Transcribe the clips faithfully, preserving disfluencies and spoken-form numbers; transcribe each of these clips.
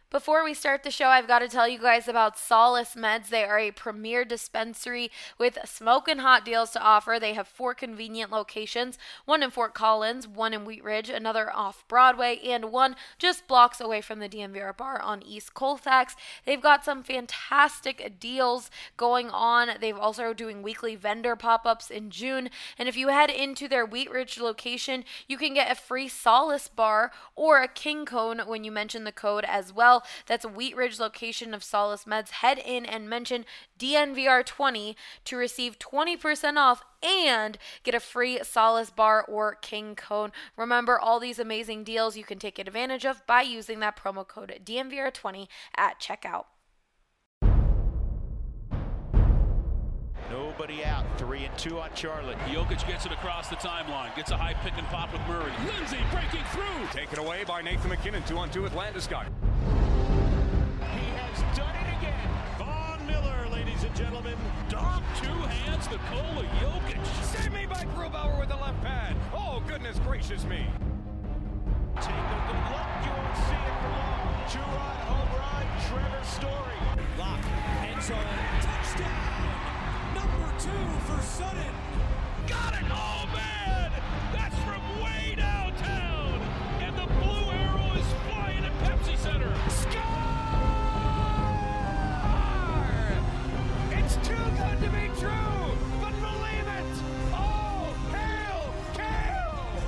Before we start the show, I've got to tell you guys about Solace Meds. They are a premier dispensary with smoking hot deals to offer. They have four convenient locations, one in Fort Collins, one in Wheat Ridge, another off Broadway, and one just blocks away from the D M V R bar on East Colfax. They've got some fantastic deals going on. They've also doing weekly vendor pop-ups in June. And if you head into their Wheat Ridge location, you can get a free Solace bar or a King Cone when you mention the code as well. That's a Wheat Ridge location of Solace Meds. Head in and mention D N V R twenty to receive twenty percent off and get a free Solace bar or King Cone. Remember, all these amazing deals you can take advantage of by using that promo code D N V R twenty at checkout. Nobody out. Three and two on Charlotte. Jokic gets it across the timeline. Gets a high pick and pop with Murray. Lindsay breaking through. Taken away by Nathan McKinnon. Two on two with Landeskog. He has done it again. Von Miller, ladies and gentlemen. Dom, two hands, Nikola Jokic. Save me by Grubauer with the left pad. Oh, goodness gracious me. Take a good look. You won't see it for long. Two-run home run. Trevor Story. Lock. End zone. Touchdown. Number two for Sutton. Got it! Oh, man! That's from way downtown! And the blue arrow is flying at Pepsi Center. Score! It's too good to be true, but believe it! Oh, hail, Kale!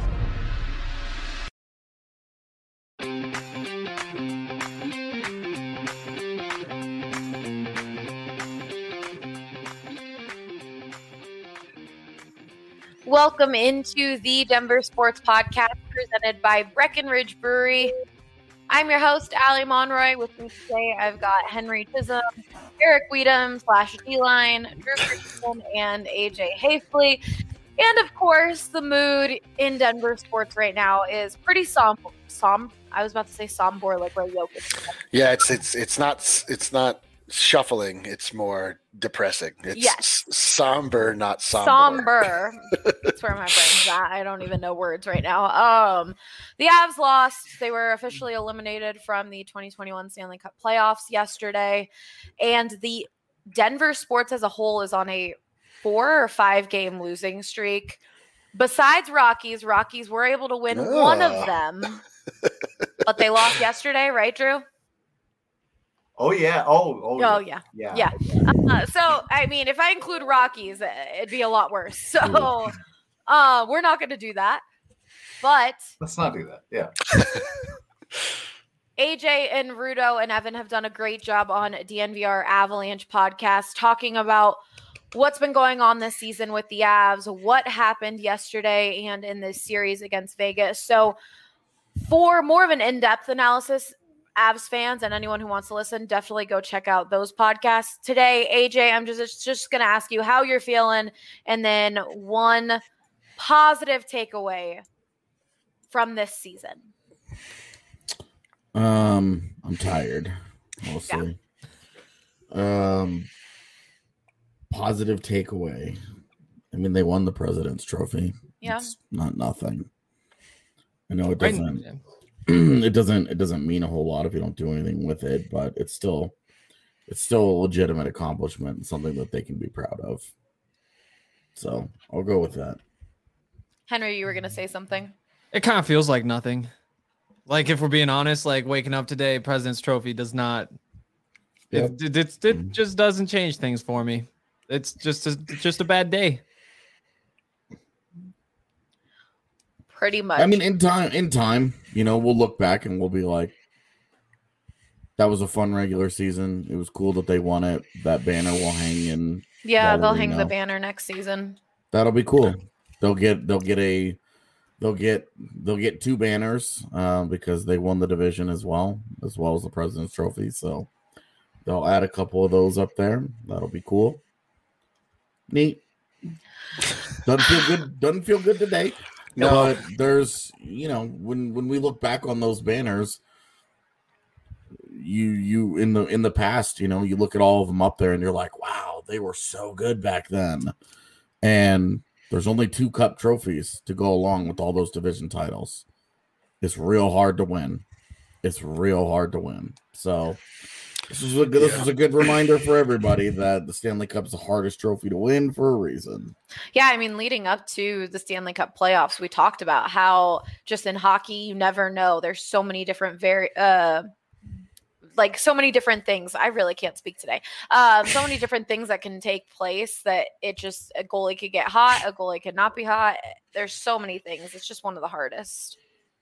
Welcome into the Denver Sports Podcast presented by Breckenridge Brewery. I'm your host, Allie Monroy. With me today, I've got Henry Chisholm, Eric Weedham slash D-Line, Drew Christensen, and A J Hafley. And of course, the mood in Denver sports right now is pretty somber. Som- I was about to say somber, like Ray Jokic. Yeah, it's it's it's not it's not shuffling. It's more depressing. It's yes. somber, not somber. Somber. That's where my brain's at. I don't even know words right now. Um, the Avs lost. They were officially eliminated from the twenty twenty-one Stanley Cup playoffs yesterday. And the Denver sports as a whole is on a four or five game losing streak. Besides Rockies, Rockies were able to win oh. one of them. But they lost yesterday, right, Drew? Oh, yeah. Oh, oh, oh yeah. Yeah. Yeah. Uh, so, I mean, if I include Rockies, it'd be a lot worse. So, uh, we're not going to do that. But let's not do that. Yeah. A J and Rudo and Evan have done a great job on D N V R Avalanche podcast talking about what's been going on this season with the Avs, what happened yesterday and in this series against Vegas. So, for more of an in-depth analysis, Avs fans and anyone who wants to listen, definitely go check out those podcasts. Today, A J, I'm just, just going to ask you how you're feeling and then one positive takeaway from this season. Um, I'm tired, mostly. Yeah. Um, positive takeaway. I mean, they won the President's Trophy. Yeah. It's not nothing. I know it doesn't. It doesn't. It doesn't mean a whole lot if you don't do anything with it, but it's still, it's still a legitimate accomplishment and something that they can be proud of. So I'll go with that. Henry, you were gonna say something. It kind of feels like nothing. Like if we're being honest, like waking up today, President's Trophy does not. Yep. It, it, it, it just doesn't change things for me. It's just a, just a bad day. Pretty much. I mean, in time, in time, you know, we'll look back and we'll be like, that was a fun regular season. It was cool that they won it. That banner will hang in. Yeah, they'll hang the banner next season. That'll be cool. They'll get, they'll get a, they'll get, they'll get two banners uh, because they won the division as well, as well as the President's Trophy. So they'll add a couple of those up there. That'll be cool. Neat. Doesn't feel good. Doesn't feel good today. No, but there's, you know, when when we look back on those banners, you you in the in the past, you know, you look at all of them up there and you're like, wow, they were so good back then. And there's only two cup trophies to go along with all those division titles. It's real hard to win. it's real hard to win. So this is a good, this is a good reminder for everybody that the Stanley Cup is the hardest trophy to win for a reason. Yeah, I mean, leading up to the Stanley Cup playoffs, we talked about how just in hockey, you never know. There's so many different very uh like so many different things. I really can't speak today. Um, so many different things that can take place that it just a goalie could get hot, a goalie could not be hot. There's so many things. It's just one of the hardest.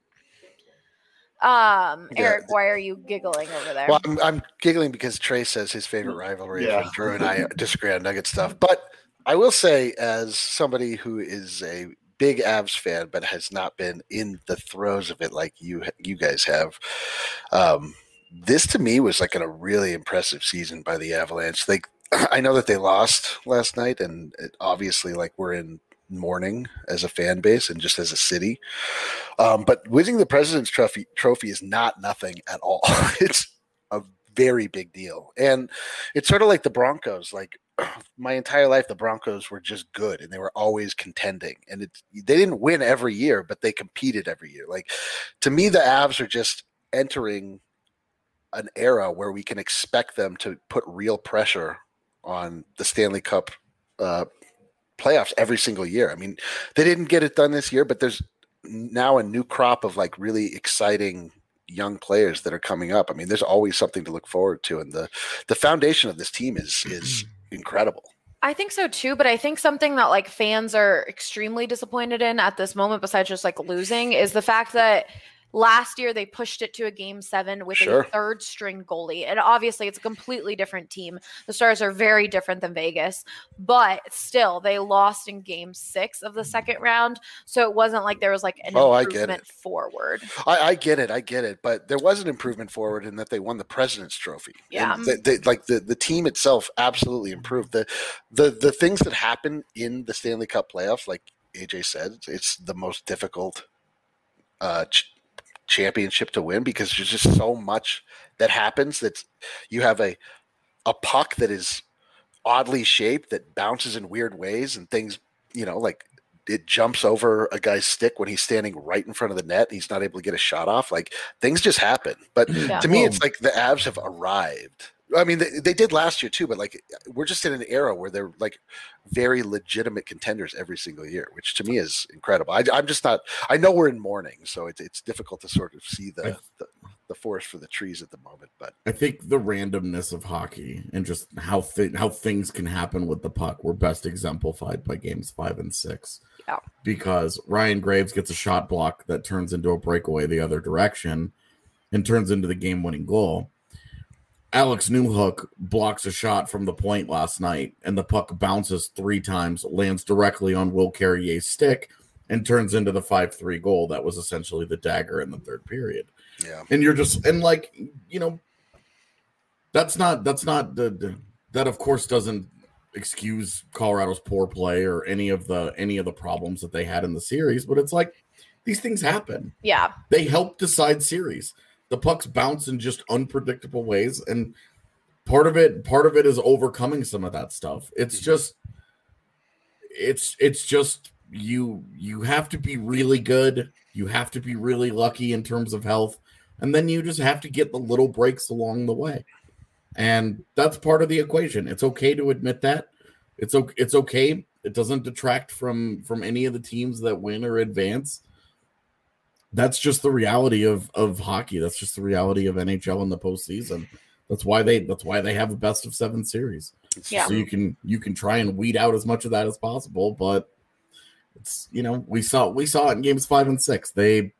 Um, Eric, yeah. Why are you giggling over there? Well, I'm, I'm giggling because Trey says his favorite rivalry yeah. is when Drew and I disagree on Nugget stuff. But I will say, as somebody who is a big Avs fan but has not been in the throes of it like you you guys have, um, this to me was like a really impressive season by the Avalanche. Like, I know that they lost last night, and it, obviously, like we're in mourning as a fan base and just as a city. Um, but winning the President's Trophy trophy is not nothing at all. It's a very big deal. And it's sort of like the Broncos. Like my entire life, the Broncos were just good and they were always contending. And it's, they didn't win every year, but they competed every year. Like to me, the Avs are just entering an era where we can expect them to put real pressure on the Stanley Cup uh, playoffs every single year. I mean, they didn't get it done this year, but there's now a new crop of like really exciting young players that are coming up. I mean, there's always something to look forward to, and the the foundation of this team is is incredible. I think so too, but I think something that like fans are extremely disappointed in at this moment, besides just like losing, is the fact that last year they pushed it to a game seven with sure. a third string goalie. And obviously it's a completely different team. The Stars are very different than Vegas, but still they lost in game six of the second round. So it wasn't like there was like an oh, improvement I get it. forward. I, I get it. I get it. But there was an improvement forward in that they won the President's Trophy. Yeah. They, they, like the, the team itself absolutely improved. The, the, the things that happen in the Stanley Cup playoffs, like A J said, it's the most difficult uh ch- championship to win because there's just so much that happens that you have a a puck that is oddly shaped that bounces in weird ways and things, you know, like it jumps over a guy's stick when he's standing right in front of the net and he's not able to get a shot off. Like things just happen. But yeah. to me, it's like the Avs have arrived. I mean, they, they did last year too, but like we're just in an era where they're like very legitimate contenders every single year, which to me is incredible. I, I'm just not. I know we're in mourning, so it's it's difficult to sort of see the, the the forest for the trees at the moment. But I think the randomness of hockey and just how th- how things can happen with the puck were best exemplified by games five and six. Yeah, because Ryan Graves gets a shot block that turns into a breakaway the other direction and turns into the game-winning goal. Alex Newhook blocks a shot from the point last night, and the puck bounces three times, lands directly on Will Carrier's stick, and turns into the five three goal that was essentially the dagger in the third period. Yeah. And you're just, and like, you know, that's not, that's not, the, the that of course doesn't excuse Colorado's poor play or any of the, any of the problems that they had in the series, but it's like, these things happen. Yeah. They help decide series. The pucks bounce in just unpredictable ways, and part of it, part of it is overcoming some of that stuff. It's just, it's, it's just you. You have to be really good. You have to be really lucky in terms of health, and then you just have to get the little breaks along the way, and that's part of the equation. It's okay to admit that. It's okay. It's okay. It doesn't detract from from any of the teams that win or advance. That's just the reality of, of hockey. That's just the reality of N H L in the postseason. That's why they that's why they have a best of seven series. Yeah. So you can you can try and weed out as much of that as possible, but it's, you know, we saw we saw it in games five and six. They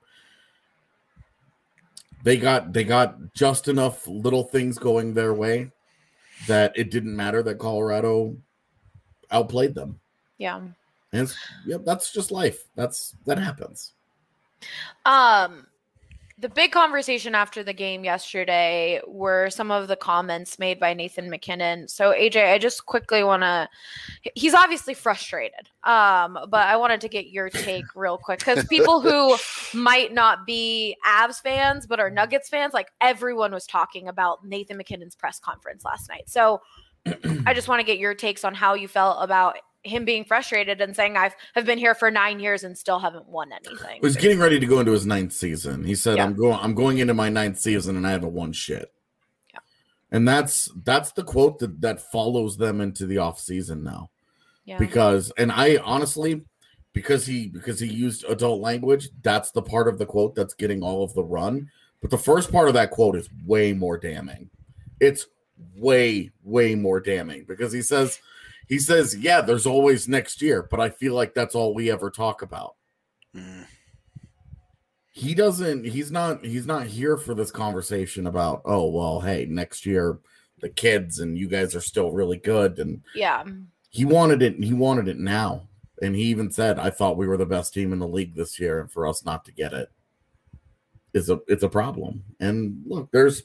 they got they got just enough little things going their way that it didn't matter that Colorado outplayed them. Yeah. And it's, yeah, that's just life. That's that happens. Um, the big conversation after the game yesterday were some of the comments made by Nathan MacKinnon. So A J, I just quickly want to, he's obviously frustrated. Um, but I wanted to get your take real quick because people who might not be Avs fans, but are Nuggets fans, like everyone was talking about Nathan MacKinnon's press conference last night. So I just want to get your takes on how you felt about him being frustrated and saying, I've have been here for nine years and still haven't won anything. He's getting ready to go into his ninth season. He said, Yeah. I'm going I'm going into my ninth season and I haven't won shit. Yeah. And that's that's the quote that, that follows them into the off season now. Yeah. Because and I honestly, because he because he used adult language, that's the part of the quote that's getting all of the run. But the first part of that quote is way more damning. It's way, way more damning because he says, he says, yeah, there's always next year, but I feel like that's all we ever talk about. Mm. He doesn't, he's not, he's not here for this conversation about, oh, well, hey, next year, the kids and you guys are still really good. And Yeah. he wanted it, and he wanted it now. And he even said, I thought we were the best team in the league this year, and for us not to get it is a it's a problem. And look, there's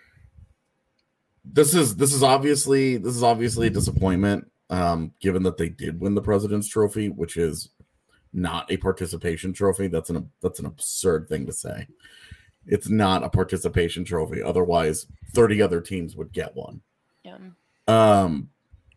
this is this is obviously this is obviously a disappointment, um, given that they did win the President's Trophy, which is not a participation trophy. That's an that's an absurd thing to say. It's not a participation trophy. Otherwise, thirty other teams would get one. Yeah. Um,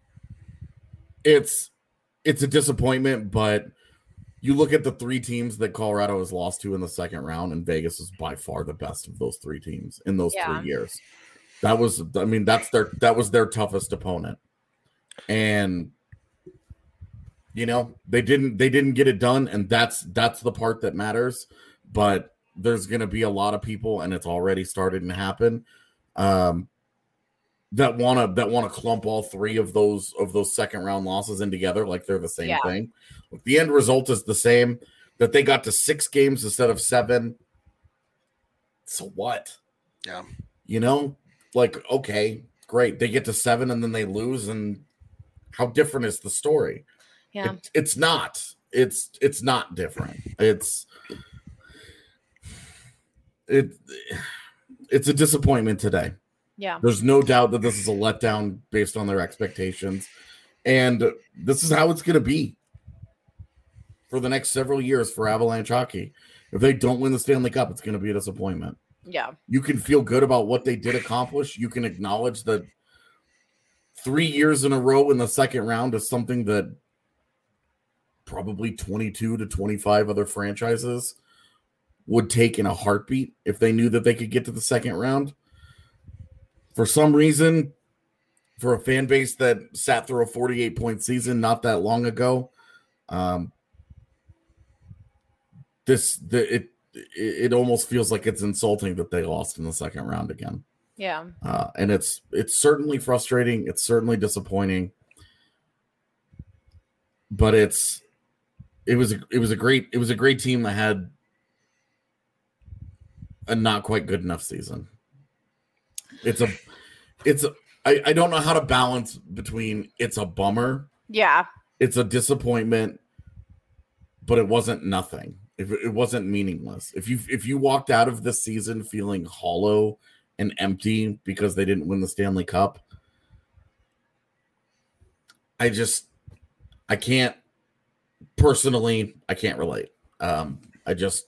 it's it's a disappointment, but you look at the three teams that Colorado has lost to in the second round, and Vegas is by far the best of those three teams in those Yeah. three years. That was, I mean, that's their that was their toughest opponent, and you know they didn't they didn't get it done, and that's that's the part that matters. But there's going to be a lot of people, and it's already started to happen. Um, that want to that want to clump all three of those of those second round losses in together like they're the same Yeah. thing. Look, the end result is the same, that they got to six games instead of seven. So what? Yeah. You know, like, okay, great. They get to seven and then they lose, and how different is the story? Yeah. It, it's not. It's it's not different. It's it it's a disappointment today. Yeah. There's no doubt that this is a letdown based on their expectations. And this is how it's going to be for the next several years for Avalanche hockey. If they don't win the Stanley Cup, it's going to be a disappointment. Yeah. You can feel good about what they did accomplish. You can acknowledge that three years in a row in the second round is something that probably twenty-two to twenty-five other franchises would take in a heartbeat if they knew that they could get to the second round. For some reason, for a fan base that sat through a forty-eight point season not that long ago, um, this the, it it almost feels like it's insulting that they lost in the second round again. Yeah. Uh, and it's it's certainly frustrating. It's certainly disappointing. But it's it was a, it was a great it was a great team that had a not quite good enough season. It's a it's a, I, I don't know how to balance between it's a bummer, Yeah. it's a disappointment, but it wasn't nothing. If it wasn't meaningless. If you if you walked out of this season feeling hollow and empty because they didn't win the Stanley Cup, I just I can't personally I can't relate. Um, I just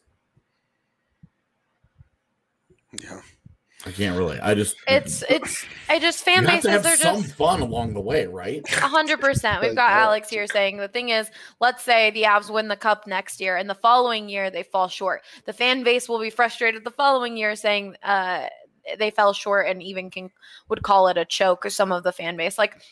Yeah. I can't relate. I just It's it's I just fan you have to bases have are some just fun along the way, right? A hundred percent. We've got Alex here saying the thing is, let's say the Avs win the cup next year, and the following year they fall short. The fan base will be frustrated the following year, saying uh, they fell short, and even can would call it a choke. Or some of the fan base, like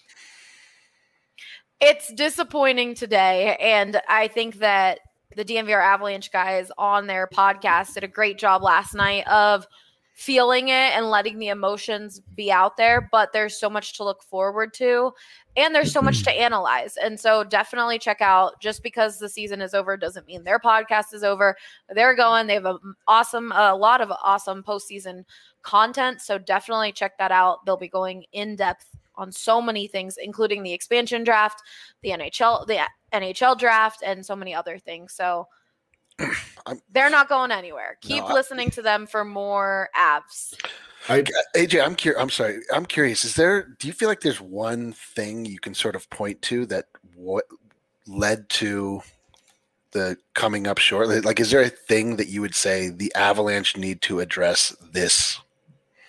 it's disappointing today, and I think that the D N V R Avalanche guys on their podcast did a great job last night of feeling it and letting the emotions be out there, but there's so much to look forward to and there's so much to analyze. And so definitely check out, just because the season is over doesn't mean their podcast is over. They're going, they have an awesome, a lot of awesome postseason content. So definitely check that out. They'll be going in depth on so many things, including the expansion draft, the N H L, the N H L draft, and so many other things. So I'm, they're not going anywhere. Keep no, I, listening to them for more Avs. I, A J, I'm curious. I'm sorry. I'm curious. Is there? Do you feel like there's one thing you can sort of point to that what led to the coming up short? Like, is there a thing that you would say the Avalanche need to address this?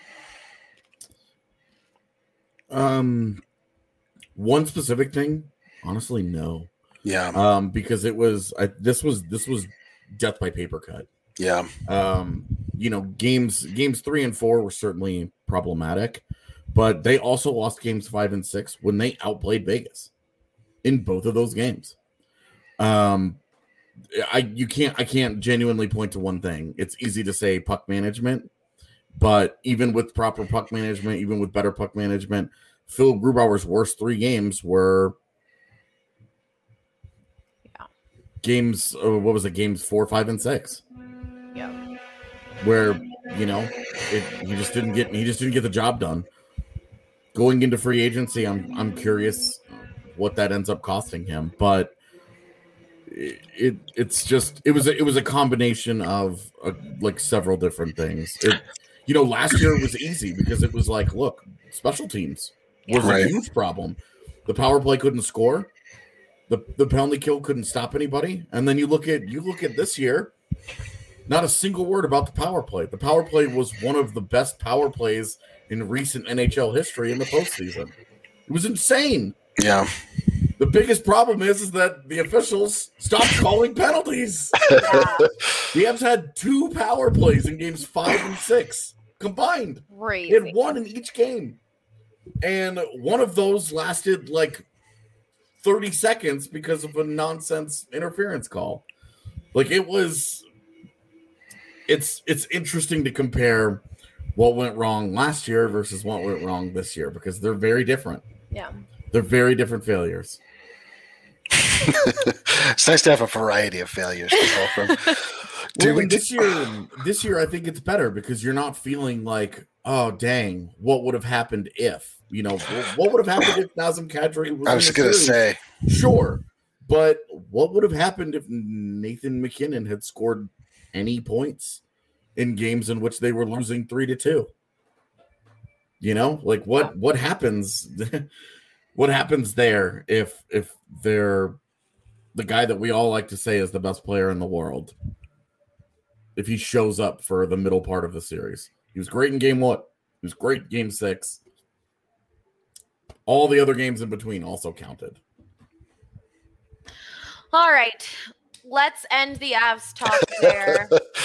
Um, one specific thing Honestly, no. Yeah. Um, because it was I, this was this was death by paper cut. Yeah. Um, you know, games games three and four were certainly problematic, but they also lost games five and six when they outplayed Vegas in both of those games. Um, I you can't I can't genuinely point to one thing. It's easy to say puck management, but even with proper puck management, even with better puck management, Phil Grubauer's worst three games were yeah. games. Uh, what was it? Games four, five, and six. Yeah. Where you know it, he just didn't get he just didn't get the job done. Going into free agency, I'm I'm curious what that ends up costing him, but. It, it it's just it was a, it was a combination of uh, like several different things. It, you know, last year it was easy because it was like, look, special teams was Right. a huge problem. The power play couldn't score, the the penalty kill couldn't stop anybody, and then you look at you look at this year, not a single word about the power play. The power play was one of the best power plays in recent N H L history in the postseason. It was insane. Yeah. The biggest problem is, is that the officials stopped calling penalties. Yeah. The Avs had two power plays in games five and six combined. Crazy. They had one in each game. And one of those lasted like thirty seconds because of a nonsense interference call. Like it was it's it's interesting to compare what went wrong last year versus what went wrong this year because they're very different. Yeah. They're very different failures. It's nice to have a variety of failures to pull from. Do Well, we and this year, this year I think it's better because you're not feeling like, oh dang, what would have happened if you know what would have happened if Nazem Kadri was? I was in the going to series? say, Sure, but what would have happened if Nathan McKinnon had scored any points in games in which they were losing three to two? You know, like what what happens? What happens there if if they're the guy that we all like to say is the best player in the world? If he shows up for the middle part of the series, he was great in game one. He was great in game six. All the other games in between also counted. All right. Let's end the Avs talk there.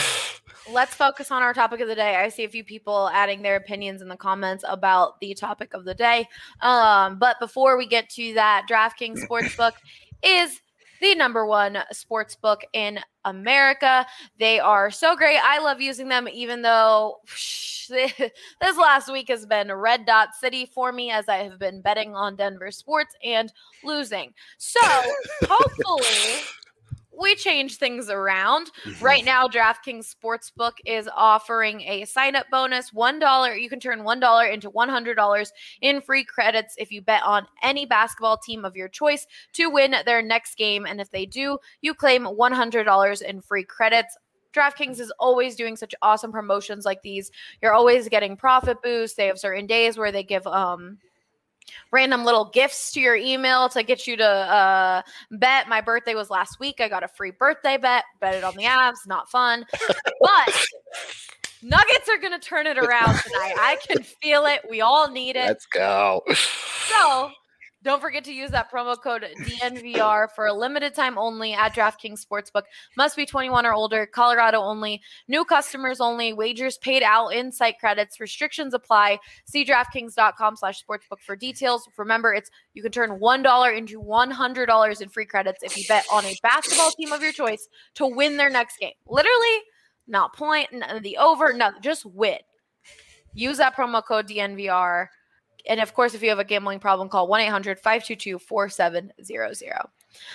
Let's focus on our topic of the day. I see a few people adding their opinions in the comments about the topic of the day. Um, but before we get to that, DraftKings Sportsbook is the number one sportsbook in America. They are so great. I love using them, even though whoosh, this last week has been red dot city for me as I have been betting on Denver sports and losing. So hopefully we change things around. Right now, DraftKings Sportsbook is offering a sign-up bonus. one dollar. You can turn one dollar into one hundred dollars in free credits if you bet on any basketball team of your choice to win their next game. And if they do, you claim one hundred dollars in free credits. DraftKings is always doing such awesome promotions like these. You're always getting profit boosts. They have certain days where they give um random little gifts to your email to get you to uh, bet. My birthday was last week. I got a free birthday bet. Bet it on the Avs. Not fun. But Nuggets are going to turn it around tonight. I can feel it. We all need it. let's go. So don't forget to use that promo code D N V R for a limited time only at DraftKings Sportsbook. Must be twenty-one or older. Colorado only. New customers only. Wagers paid out in site credits. Restrictions apply. See DraftKings.com slash sportsbook for details. Remember, it's you can turn one dollar into one hundred dollars in free credits if you bet on a basketball team of your choice to win their next game. Literally, not point, none of the over, no, just win. Use that promo code D N V R. And, of course, if you have a gambling problem, call one eight hundred five two two four seven zero zero.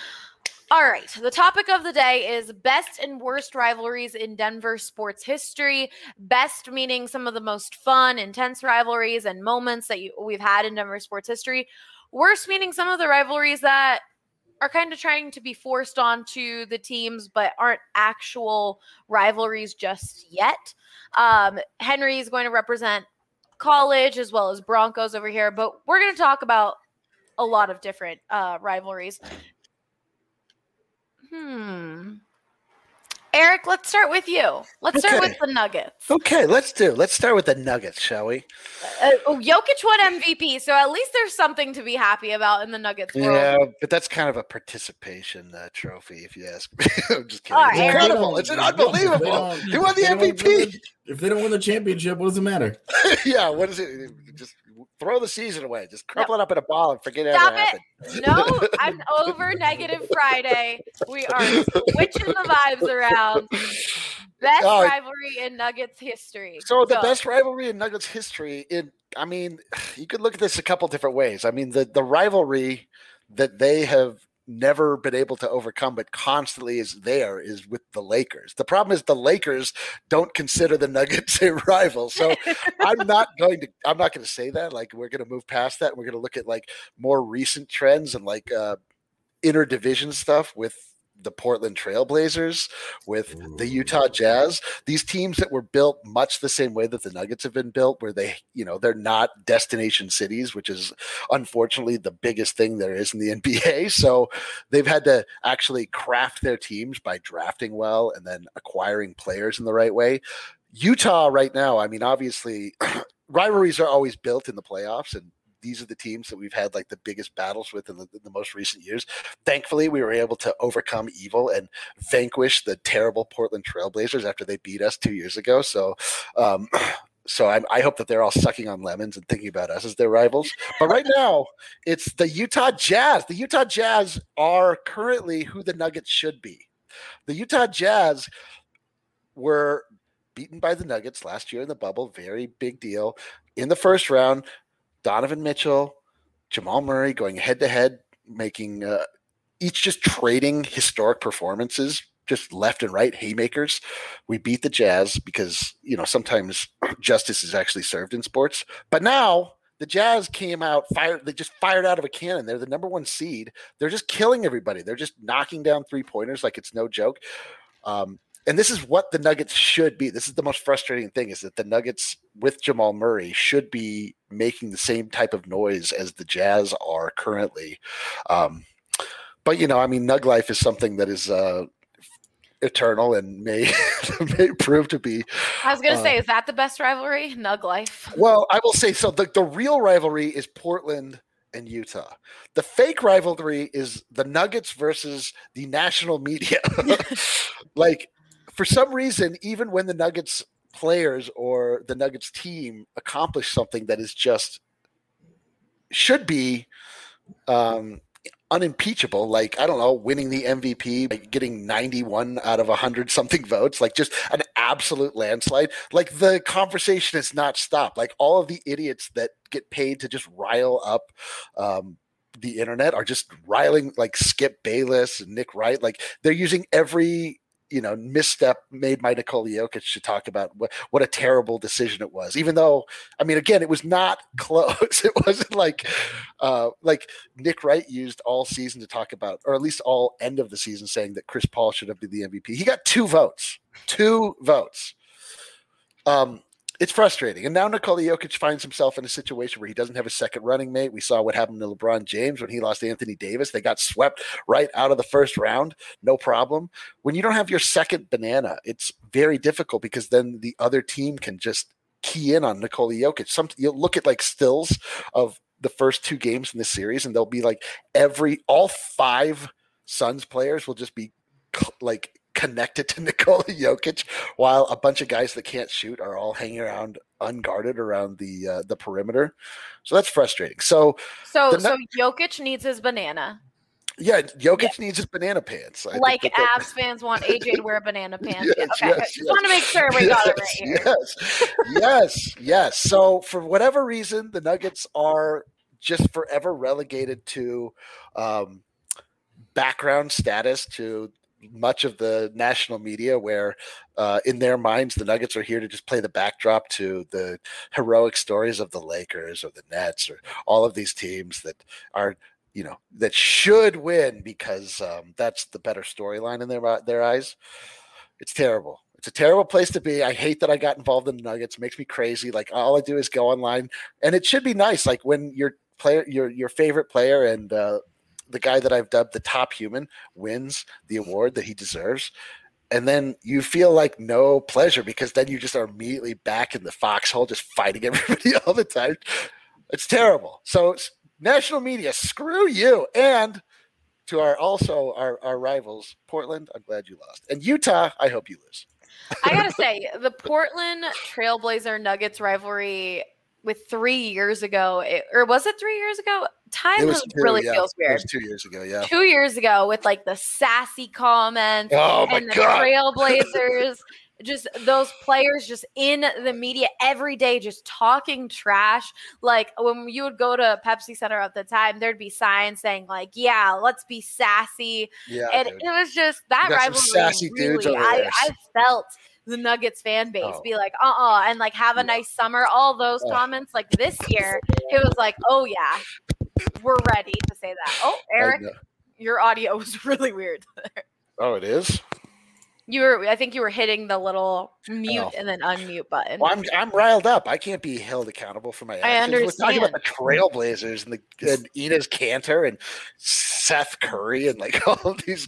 All right. The topic of the day is best and worst rivalries in Denver sports history. Best meaning some of the most fun, intense rivalries and moments that you, we've had in Denver sports history. Worst meaning some of the rivalries that are kind of trying to be forced onto the teams but aren't actual rivalries just yet. Um, Henry is going to represent college as well as Broncos over here, but we're going to talk about a lot of different uh, rivalries. Hmm. Eric, let's start with you. Let's start Okay. with the Nuggets. Okay, let's do. Let's start with the Nuggets, shall we? Uh, oh, Jokic won M V P, so at least there's something to be happy about in the Nuggets world. Yeah, but that's kind of a participation uh, trophy, if you ask me. I'm just kidding. All It's right, Eric. incredible. It's unbelievable. He won the If they M V don't win P. the- If they don't win the championship, what does it matter? Yeah, what is it? Just throw the season away. Just crumple it up in a ball and forget it Stop ever it. happened. No, I'm over Negative Friday. We are switching the vibes around. Best Oh, rivalry in Nuggets history. So the Go. best rivalry in Nuggets history, in I mean, you could look at this a couple different ways. I mean, the the rivalry that they have never been able to overcome but constantly is there is with the Lakers. The problem is the Lakers don't consider the Nuggets a rival. So I'm not going to I'm not going to say that. Like, we're going to move past that and we're going to look at like more recent trends and like uh interdivision stuff with the Portland Trailblazers, with the Utah Jazz, these teams that were built much the same way that the Nuggets have been built, where they, you know, they're not destination cities, which is unfortunately the biggest thing there is in the N B A. So they've had to actually craft their teams by drafting well and then acquiring players in the right way. Utah right now, I mean, obviously rivalries are always built in the playoffs, and these are the teams that we've had like the biggest battles with in the, in the most recent years. Thankfully, we were able to overcome evil and vanquish the terrible Portland Trailblazers after they beat us two years ago. So, um, so I, I hope that they're all sucking on lemons and thinking about us as their rivals. But right now, it's the Utah Jazz. The Utah Jazz are currently who the Nuggets should be. The Utah Jazz were beaten by the Nuggets last year in the bubble. Very big deal. In the first round, Donovan Mitchell, Jamal Murray going head to head, making uh, each just trading historic performances, just left and right haymakers. We beat the Jazz because, you know, sometimes justice is actually served in sports. But now the Jazz came out, fired, they just fired out of a cannon. They're the number one seed. They're just killing everybody. They're just knocking down three pointers like it's no joke. Um, And this is what the Nuggets should be. This is the most frustrating thing, is that the Nuggets with Jamal Murray should be making the same type of noise as the Jazz are currently. Um, but, you know, I mean, Nug life is something that is uh, eternal and may, may prove to be. I was going to uh, say, is that the best rivalry? Nug life. Well, I will say, so the, the real rivalry is Portland and Utah. The fake rivalry is the Nuggets versus the national media. Like, for some reason, even when the Nuggets players or the Nuggets team accomplish something that is just should be um, unimpeachable, like, I don't know, winning the M V P, like getting ninety-one out of one hundred something votes, like just an absolute landslide, like the conversation has not stopped. Like, all of the idiots that get paid to just rile up um, the internet are just riling, like Skip Bayless and Nick Wright. Like, they're using every, you know, misstep made by Nikola Jokic to talk about what, what a terrible decision it was. Even though, I mean, again, it was not close. It wasn't like, uh, like Nick Wright used all season to talk about, or at least all end of the season, saying that Chris Paul should have been the M V P. He got two votes, two votes. Um, It's frustrating. And now Nikola Jokic finds himself in a situation where he doesn't have a second running mate. We saw what happened to LeBron James when he lost Anthony Davis. They got swept right out of the first round. No problem. When you don't have your second banana, it's very difficult because then the other team can just key in on Nikola Jokic. Some, you'll look at like stills of the first two games in this series, and they'll be like every, all five Suns players will just be like connected to Nikola Jokic, while a bunch of guys that can't shoot are all hanging around unguarded around the uh, the perimeter. So that's frustrating. So, So, the, so Jokic needs his banana. yeah, Jokic Yeah. needs his banana pants. I Like think that- Avs fans want A J to wear banana pants. Yes, Yeah, okay, yes, I just yes. want to make sure we got it right here. Yes, yes, yes. So for whatever reason, the Nuggets are just forever relegated to um, background status to much of the national media, where uh, in their minds, the Nuggets are here to just play the backdrop to the heroic stories of the Lakers or the Nets or all of these teams that are, you know, that should win because um, that's the better storyline in their their eyes. It's terrible. It's a terrible place to be. I hate that I got involved in the Nuggets. It makes me crazy. Like, all I do is go online, and it should be nice. Like, when your player, your your favorite player, and uh, the guy that I've dubbed the top human wins the award that he deserves. and then you feel like no pleasure because then you just are immediately back in the foxhole, just fighting everybody all the time. It's terrible. So national media, screw you. And to our also our, our rivals, Portland, I'm glad you lost. And Utah, I hope you lose. I gotta say, the Portland Trailblazer Nuggets rivalry with three years ago, it, or was it three years ago? Time was two, really yeah. feels weird. It was two years ago, yeah. Two years ago with like the sassy comments oh my and the God. Trailblazers, just those players just in the media every day, just talking trash. Like when you would go to Pepsi Center at the time, there'd be signs saying like, yeah, let's be sassy. Yeah, and dude. it was just that You got some rivalry. sassy Really, dudes over I, there. I felt the Nuggets fan base Oh. be like, uh-uh, and like have a nice summer. All those Oh. comments, like this year, it was like, oh yeah, we're ready to say that. Oh, Eric, know. your audio was really weird. Oh, it is? You were, I think you were hitting the little mute Oh. and then unmute button. Well, I'm I'm riled up. I can't be held accountable for my actions. We're talking about the Trailblazers and the and Enes Kanter and Seth Curry and like all of these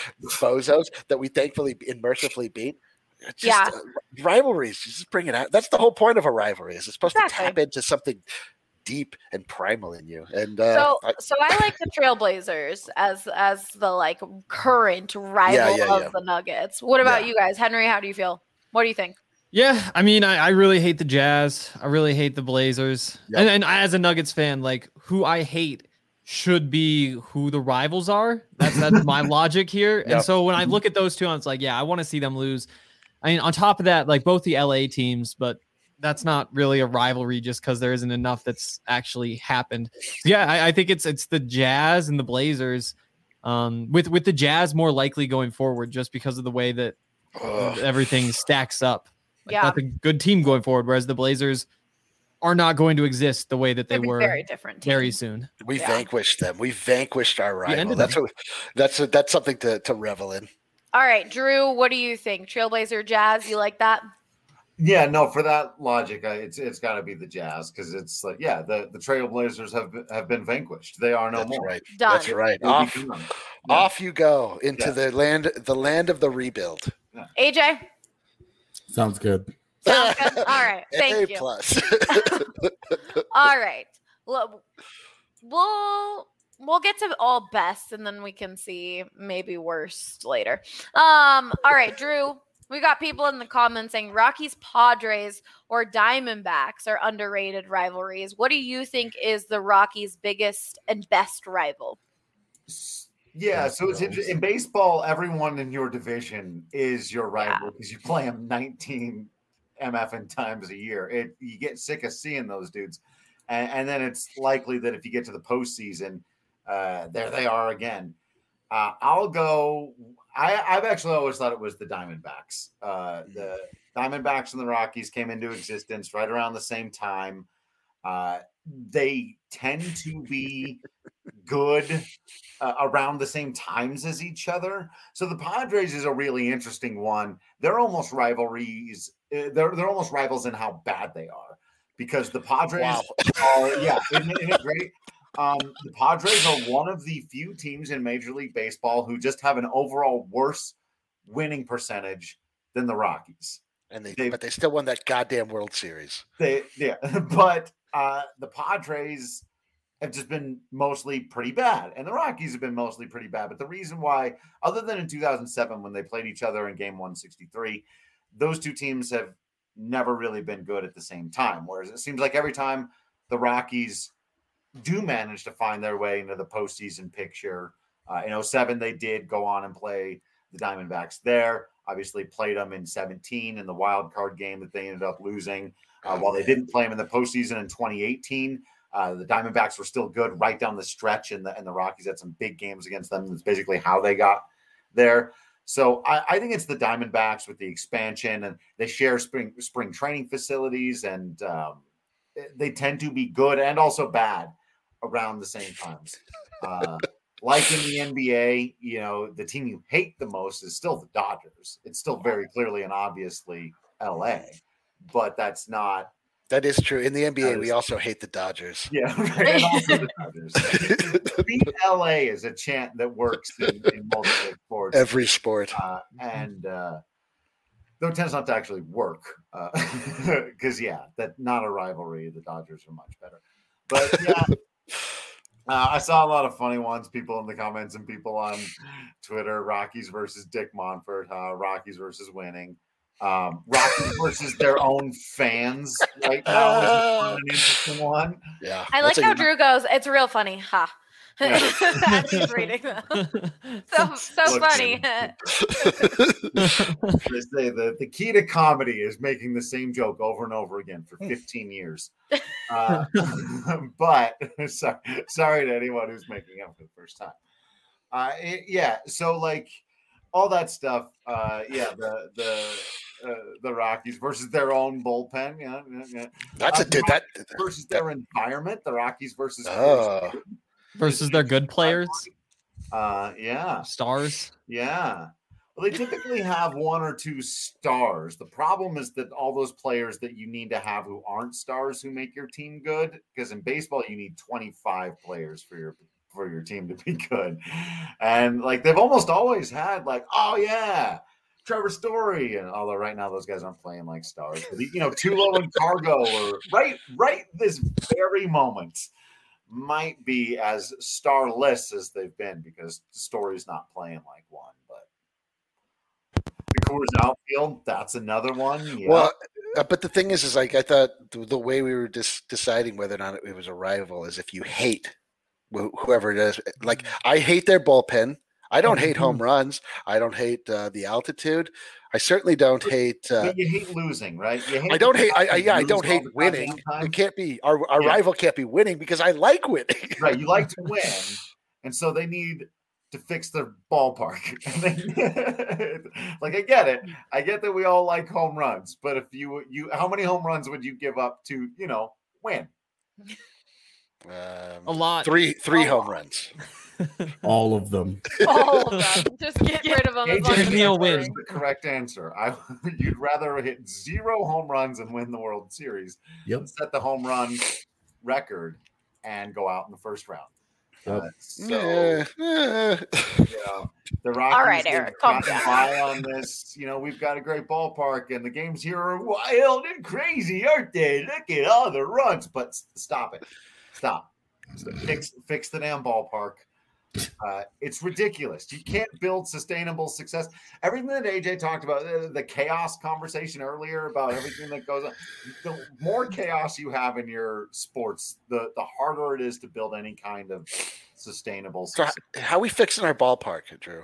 bozos that we thankfully and mercifully beat. It's just, Yeah. uh, rivalries. Just bring it out. That's the whole point of a rivalry. Is it's supposed Exactly. to tap into something deep and primal in you. And uh, So, I, so I like the Trailblazers as as the like current rival Yeah, yeah, of yeah. the Nuggets. What about Yeah. you guys, Henry? How do you feel? What do you think? Yeah, I mean, I, I really hate the Jazz. I really hate the Blazers. Yep. And, and as a Nuggets fan, like who I hate should be who the rivals are. That's that's my logic here. Yep. And so when I look at those two, it's like, yeah, I want to see them lose. I mean, on top of that, like both the L A teams, but that's not really a rivalry just because there isn't enough that's actually happened. So yeah, I, I think it's it's the Jazz and the Blazers. Um, with with the Jazz more likely going forward, just because of the way that ugh. everything stacks up. Like, Yeah. that's a good team going forward, whereas the Blazers are not going to exist the way that they They'd be were very different. team. very soon. we Yeah. vanquished them. We vanquished our We rival. ended That's them. what. That's a, that's something to to revel in. All right, Drew, what do you think? Trailblazer Jazz, you like that? Yeah, no, for that logic, I, it's it's got to be the Jazz because it's like, yeah, the, the Trailblazers have been, have been vanquished. They are no That's more. right. Done. That's right. They'll be Off done. Yeah. off you go into Yeah. the land the land of the rebuild. A J? Sounds good. Sounds good. All right. Thank A you. plus. All right. Well, we'll we'll get to all best and then we can see maybe worst later. Um, all right, Drew. We got people in the comments saying Rockies, Padres, or Diamondbacks are underrated rivalries. What do you think is the Rockies' biggest and best rival? Yeah, so it's inter- in baseball, everyone in your division is your rival because you play them nineteen M F N times a year. It you get sick of seeing those dudes, and, and then it's likely that if you get to the postseason, uh, there they are again. Uh, I'll go. I, I've actually always thought it was the Diamondbacks. Uh, the Diamondbacks and the Rockies came into existence right around the same time. Uh, they tend to be good uh, around the same times as each other. So the Padres is a really interesting one. They're almost rivalries. uh, They're they're almost rivals in how bad they are because the Padres Wow. are yeah, isn't it, isn't it great? Um, the Padres are one of the few teams in Major League Baseball who just have an overall worse winning percentage than the Rockies. and they, They- but they still won that goddamn World Series. They yeah, but uh, the Padres have just been mostly pretty bad, and the Rockies have been mostly pretty bad. But the reason why, other than in two thousand seven when they played each other in Game one sixty-three, those two teams have never really been good at the same time. Whereas it seems like every time the Rockies do manage to find their way into the postseason picture, uh, in oh seven they did go on and play the Diamondbacks there. Obviously played them in seventeen in the wild card game that they ended up losing. Uh, while they didn't play them in the postseason in twenty eighteen, uh, the Diamondbacks were still good right down the stretch, and the and the Rockies had some big games against them. That's basically how they got there. So I, I think it's the Diamondbacks with the expansion, and they share spring spring training facilities, and um, they tend to be good and also bad around the same times. Uh, like in the N B A, you know, the team you hate the most is still the Dodgers. It's still very clearly and obviously L A, but that's not That is true. In the N B A, That we is- also hate the Dodgers. Yeah, right. And also the Dodgers. Beat L A is a chant that works in, in multiple sports. Every sport. Uh, and uh, though it tends not to actually work, because yeah, that not a rivalry. The Dodgers are much better. But yeah, uh, I saw a lot of funny ones. People in the comments and people on Twitter: Rockies versus Dick Monfort. Uh, Rockies versus winning. Um, Rockies versus their own fans right now is an interesting one. Yeah. I like that's a how good- Drew goes, it's real funny. Ha. Yeah. As he's reading them. So, so Look, funny. They say the, the key to comedy is making the same joke over and over again for fifteen years. Uh, but sorry, sorry to anyone who's making it for the first time. Uh, it- yeah, so like all that stuff. Uh, yeah, the the uh, the Rockies versus their own bullpen. Yeah, yeah, yeah. That's Uh, a dude. That versus their environment. The Rockies versus Oh. Versus their good players, Uh, yeah. stars. Yeah. Well, they typically have one or two stars. The problem is that all those players that you need to have who aren't stars who make your team good, because in baseball you need twenty-five players for your for your team to be good. And like they've almost always had like, oh yeah, Trevor Story, and although right now those guys aren't playing like stars, but you know, Tulo and Cargo or right right this very moment might be as starless as they've been because Story's not playing like one, but the Coors outfield, that's another one. Yeah. Well, uh, but the thing is, is like I thought the, the way we were dis- deciding whether or not it was a rival is if you hate wh- whoever it is. Like I hate their bullpen. I don't hate home runs. I don't hate uh, the altitude. I certainly don't hate. Uh, But you hate losing, right? You hate I don't the hate. I, fact I that yeah. I you don't lose all hate the winning. goddamn time. It can't be our our Yeah. rival can't be winning because I like winning. Right, you like to win, and so they need to fix their ballpark. And they, like I get it, I get that we all like home runs, but if you you, how many home runs would you give up to you know win? Um, A lot. Three three A home lot. runs. All of them. All of them. Just get rid of them. as long A J as Give me a they're win. is the correct answer. I you'd rather hit zero home runs and win the World Series Yep. than set the home run record and go out in the first round. Yep. Uh, so Yeah, eh. you know, the Rockies All right, they've Eric, calm gotten down. by on this. You know, we've got a great ballpark, and the games here are wild and crazy, aren't they? Look at all the runs. But s- stop it, stop. So fix fix the damn ballpark. Uh, it's ridiculous. You can't build sustainable success. Everything that A J talked about, the, the chaos conversation earlier about everything that goes on, the more chaos you have in your sports, the, the harder it is to build any kind of sustainable So success. h- how we fixing our ballpark, Drew?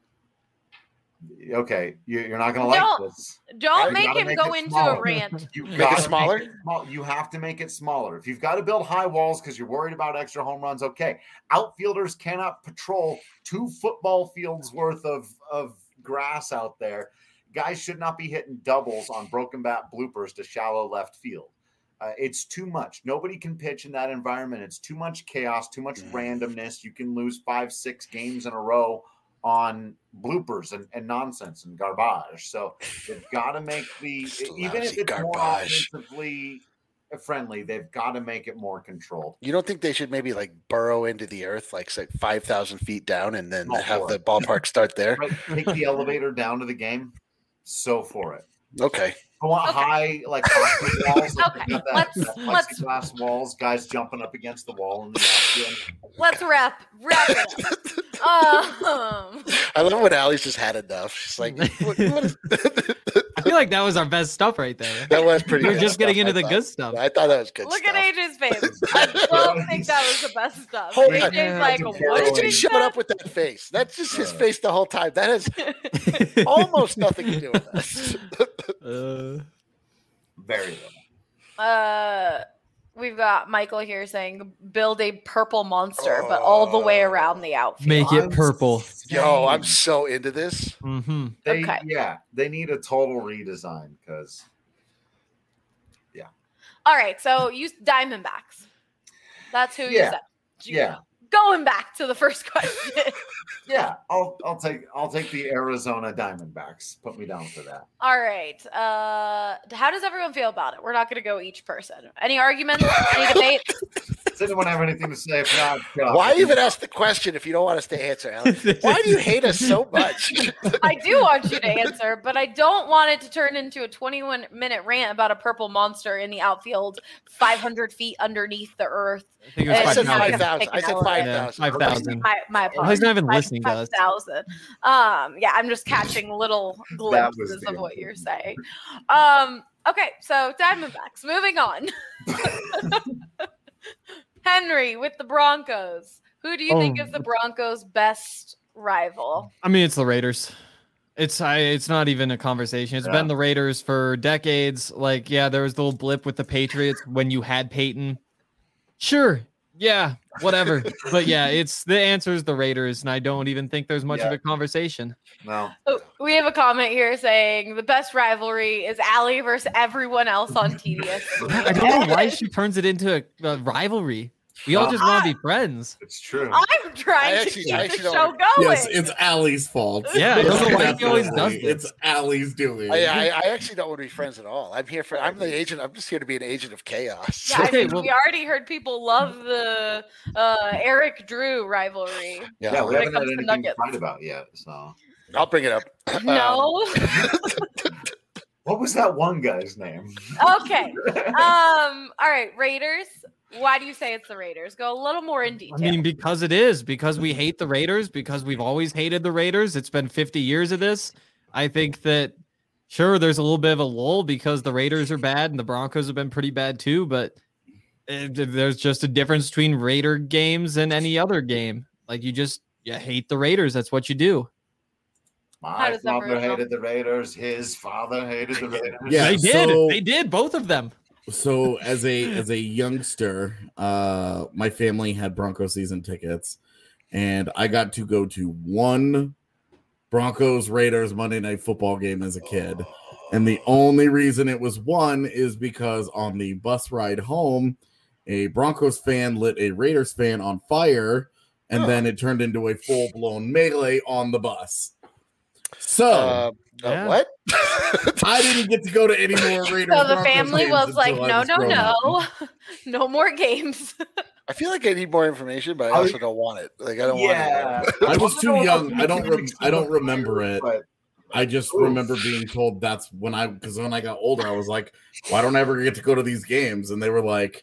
Okay, you, you're not going to like Don't this. Don't You make gotta him make go it into smaller. a rant. You Make it gotta smaller? it small- You have to make it smaller. If you've got to build high walls because you're worried about extra home runs, okay. Outfielders cannot patrol two football fields worth of, of grass out there. Guys should not be hitting doubles on broken bat bloopers to shallow left field. Uh, it's too much. Nobody can pitch in that environment. It's too much chaos, too much Mm. randomness. You can lose five, six games in a row on bloopers and, and nonsense and garbage. So they've got to make the even if Lousy it's more garbage. offensively friendly, they've got to make it more controlled. You don't think they should maybe like burrow into the earth, like say five thousand feet down, and then All have for the it. ballpark start there? Right? Take the elevator down to the game. So for it. Okay. I want Okay. high like hockey walls. like Okay, they got that- let's- that let's- plexiglass walls, guys jumping up against the wall in the outfield. Let's wrap wrap it up. Um, I love when Allie's just had enough. She's like, what, what is- I feel like that was our best stuff right there. that was pretty. We were good just getting stuff, into I the thought. good stuff. I thought that was good look stuff. at A J's face. I don't think that was the best stuff. Hold A on. J's like, Yeah. what A did J, you shut say? up with that face. That's just his Uh. face the whole time. That has almost nothing to do with us. Uh, Very little. Uh, we've got Michael here saying build a purple monster, but all the way around the outfield. make it I'm purple. Yo, I'm saying so into this. Mm-hmm. They, Okay. Yeah, they need a total redesign because All right, so you Diamondbacks. That's who you Yeah. said. yeah, going back to the first question. Yeah, I'll I'll take I'll take the Arizona Diamondbacks. Put me down for that. All right. Uh, how does everyone feel about it? We're not going to go each person. Any arguments? Any debates? Does anyone have anything to say? If not, go. Why even ask the question if you don't want us to answer, Alan? Why do you hate us so much? I do want you to answer, but I don't want it to turn into a twenty-one minute rant about a purple monster in the outfield, five hundred feet underneath the earth. I think it was I said five five thousand. I said five thousand. Five thousand. My, my apologies. He's not even Five- listening to five us. thousand. Um, yeah, I'm just catching little was glimpses the of what you're saying. Um, okay, so Diamondbacks. Moving on. Henry with the Broncos. Who do you think Oh. is the Broncos' best rival? I mean, it's the Raiders. It's I. It's not even a conversation. It's Yeah. been the Raiders for decades. Like, yeah, there was the little blip with the Patriots when you had Peyton. Sure, yeah, whatever. But yeah, it's the answer is the Raiders, and I don't even think there's much of Yeah. a conversation. No. Oh, we have a comment here saying the best rivalry is Allie versus everyone else on T D S. I don't know why she turns it into a, a rivalry. We all just want to be friends. It's true. I'm trying I to actually- keep I the actually show don't- going. Yes, it's Allie's fault. Yeah, I don't know why It's he always does definitely- this. It's Allie's doing. I, I, I actually don't want to be friends at all. I'm here for. I'm the agent. I'm just here to be an agent of chaos. Yeah, I Okay, mean, well- we already heard people love the uh, Eric Drew rivalry. Yeah, Yeah, we when it haven't had comes to anything to Nuggets. fight about yet. So, I'll bring it up. No. what was that one guy's name? Okay. Um. All right. Raiders. Why do you say it's the Raiders? Go a little more in I detail. mean, because it is, because we hate the Raiders, because we've always hated the Raiders. It's been fifty years of this. I think that, sure, there's a little bit of a lull because the Raiders are bad and the Broncos have been pretty bad too, but uh, there's just a difference between Raider games and any other game. Like, you just, you hate the Raiders. That's what you do. How My does father everyone know? hated the Raiders. His father hated the Raiders. Yeah, they did. so- They did, both of them. So as a as a youngster, uh, my family had Bronco season tickets, and I got to go to one Broncos Raiders Monday Night Football game as a kid. And the only reason it was one is because on the bus ride home, a Broncos fan lit a Raiders fan on fire, and then it turned into a full blown melee on the bus. So. Uh, uh, Yeah. What? I didn't get to go to any more Raiders. So the Broncos family games was like, until I no, was no, grown up. no, no more games. I feel like I need more information, but I I- also don't want it. Like I don't Yeah. want it. I was too don't know young. if I don't. Rem- I don't it's remember it. but I just Oof. remember being told that's when I because when I got older, I was like, "Why don't I ever get to go to these games?" And they were like,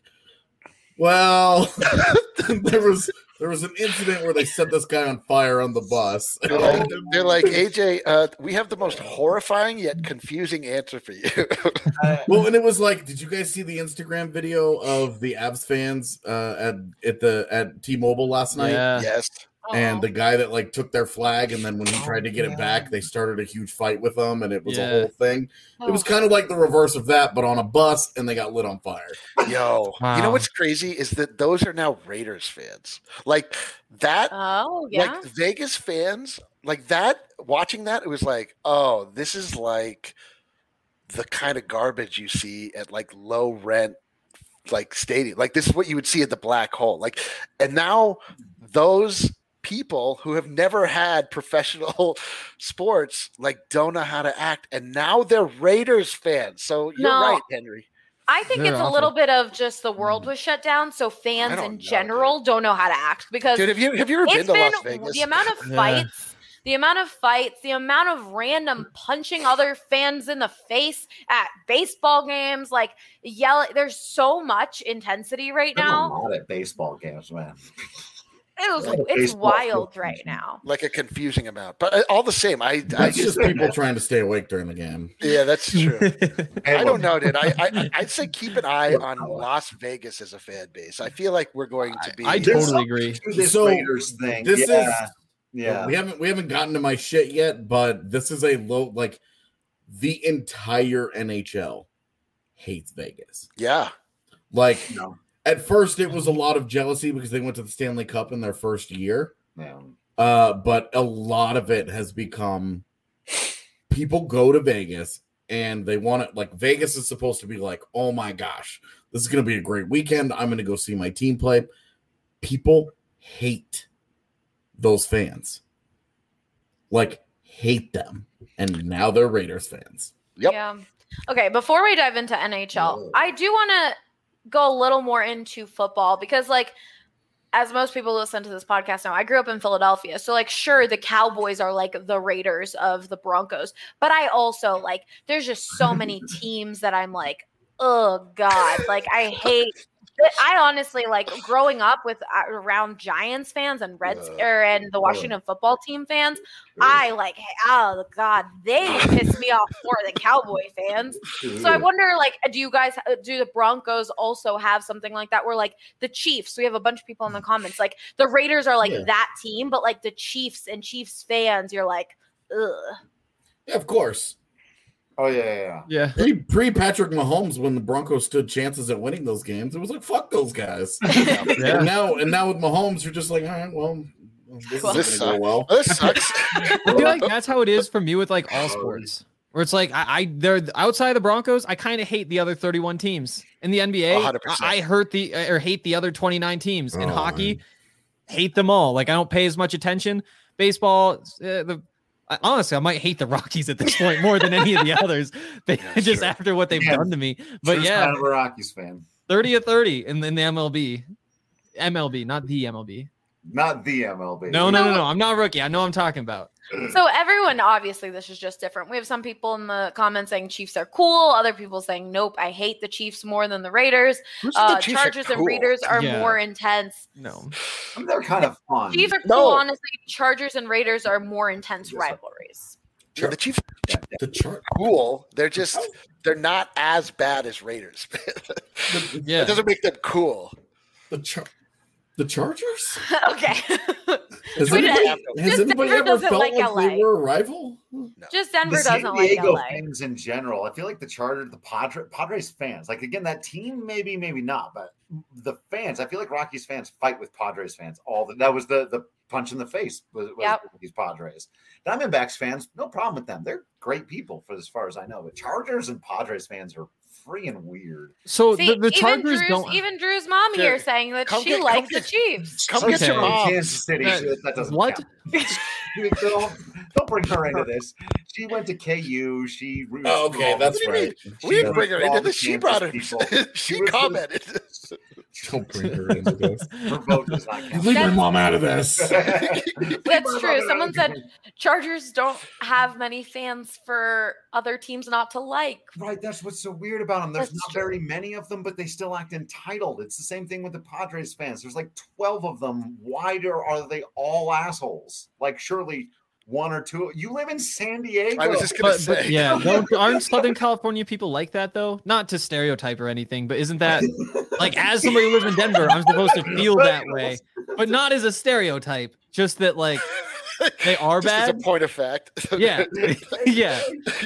"Well, there was there was an incident where they set this guy on fire on the bus." They're like, they're like, A J, uh, we have the most horrifying yet confusing answer for you. uh, Well, and it was like, did you guys see the Instagram video of the Abs fans uh, at at the at T-Mobile last night? Yeah. Yes. And the guy that like took their flag, and then when he Oh, tried to get yeah. it back, they started a huge fight with them, and it was Yeah. a whole thing. It was kind of like the reverse of that, but on a bus, and they got lit on fire. Yo, you know Wow. what's crazy is that those are now Raiders fans. Like that, Oh, yeah. like Vegas fans, like that. Watching that, it was like, oh, this is like the kind of garbage you see at like low rent, like stadium. Like this is what you would see at the Black Hole. Like, and now those people who have never had professional sports like don't know how to act, and now they're Raiders fans. So you're No. right, Henry. I think They're it's a awful. little bit of just the world was shut down, so I fans don't in know, general don't know how to act because Dude, have you have you ever been it's to been Las Vegas? the amount of Yeah. fights, the amount of fights, the amount of random punching other fans in the face at baseball games, like yelling. There's so much intensity right I'm now. not at baseball games, man. It was, Like it's baseball wild field. right now. Like a confusing amount, but uh, all the same, I, I That's just just people trying to stay awake during the game. yeah, that's true. Hey, I don't look, know, dude. I, I I'd say keep an eye on Las Vegas as a fan base. I feel like we're going to be. I There's totally agree. to This So, Raiders thing. This yeah, is yeah. We haven't we haven't gotten to my shit yet, but this is a low like the entire N H L hates Vegas. yeah. Like No. at first it was a lot of jealousy because they went to the Stanley Cup in their first year. Yeah. Uh, but a lot of it has become people go to Vegas and they want it like Vegas is supposed to be like, oh my gosh, this is gonna be a great weekend. I'm gonna go see my team play. People hate those fans. Like, hate them. And now they're Raiders fans. Yep. Yeah. Okay, before we dive into N H L, I do want to go a little more into football because, like, as most people listen to this podcast know, I grew up in Philadelphia. So, like, sure, the Cowboys are like the Raiders of the Broncos. But I also, like, there's just so many teams that I'm like, oh, God. Like, I hate – I honestly, like, growing up with uh, around Giants fans and Reds uh, or, and the Washington football team fans, I, like, oh, God, they piss me off more than Cowboy fans. So I wonder, like, do you guys – do the Broncos also have something like that where, like, the Chiefs – we have a bunch of people in the comments. Like, the Raiders are, like, yeah. that team, but, like, the Chiefs and Chiefs fans, you're like, ugh. Yeah, of course. Oh, yeah, yeah, yeah. yeah. Pre, pre Patrick Mahomes, when the Broncos stood chances at winning those games, it was like, fuck those guys. yeah. And now and now with Mahomes, you're just like, all right, well, this well, isn't going to go well. This sucks. I feel like that's how it is for me with, like, all sports. Where it's like, I, I they're outside of the Broncos, I kind of hate the other thirty-one teams. In the N B A, I, I hurt the or hate the other twenty-nine teams. In oh, hockey, man. hate them all. Like, I don't pay as much attention. Baseball, uh, the I, honestly, I might hate the Rockies at this point more than any of the others, they, yeah, just sure. after what they've yeah. done to me. But True's yeah, kind of a Rockies fan. thirty of thirty in, in the M L B. M L B, not the M L B. Not the M L B. No, no, no, no. I'm not a rookie. I know what I'm talking about. So everyone, obviously, this is just different. We have some people in the comments saying Chiefs are cool. Other people saying, nope, I hate the Chiefs more than the Raiders. Uh, the Chargers cool? and Raiders are yeah. more intense. No. I mean, they're kind of fun. Chiefs are cool, no. honestly. Chargers and Raiders are more intense yes. rivalries. Yeah, the Chiefs are the Char- cool. They're just, they're not as bad as Raiders. yeah. It doesn't make them cool. The Char- The Chargers? Okay. Has anybody, has anybody ever felt like, like they were a rival? No. Just Denver the doesn't San Diego like L A. Fans in general. I feel like the Chargers, the Padre, Padres fans, like, again, that team, maybe, maybe not, but the fans, I feel like Rockies fans fight with Padres fans. All the, that was the the punch in the face was, was yep. these Padres. Diamondbacks fans, no problem with them. They're great people for as far as I know. But Chargers and Padres fans are freaking weird. So See, the, the Chargers even Drew's, don't. Even Drew's mom Dude, here saying that she get, likes get, the Chiefs. Come okay. get your mom. Kansas City. That, that doesn't what? count. don't, don't bring her into this. She went to K U. She oh, okay, that's right. We didn't bring her into this. She brought it. She, she commented. Don't bring her into this. Her vote does not count. Leave your mom out of this. That's true. Someone said Chargers don't have many fans for other teams not to like. Right. That's what's so weird about them. There's that's not true. very many of them, but they still act entitled. It's the same thing with the Padres fans. There's like twelve of them. Why are they all assholes? Like, surely one or two. You live in San Diego. I was just gonna but, say. But yeah, don't, aren't Southern California people like that though? Not to stereotype or anything, but isn't that like, as somebody who lives in Denver, I'm supposed to feel that way, but not as a stereotype. Just that, like, they are just bad. As a point of fact. Yeah, yeah.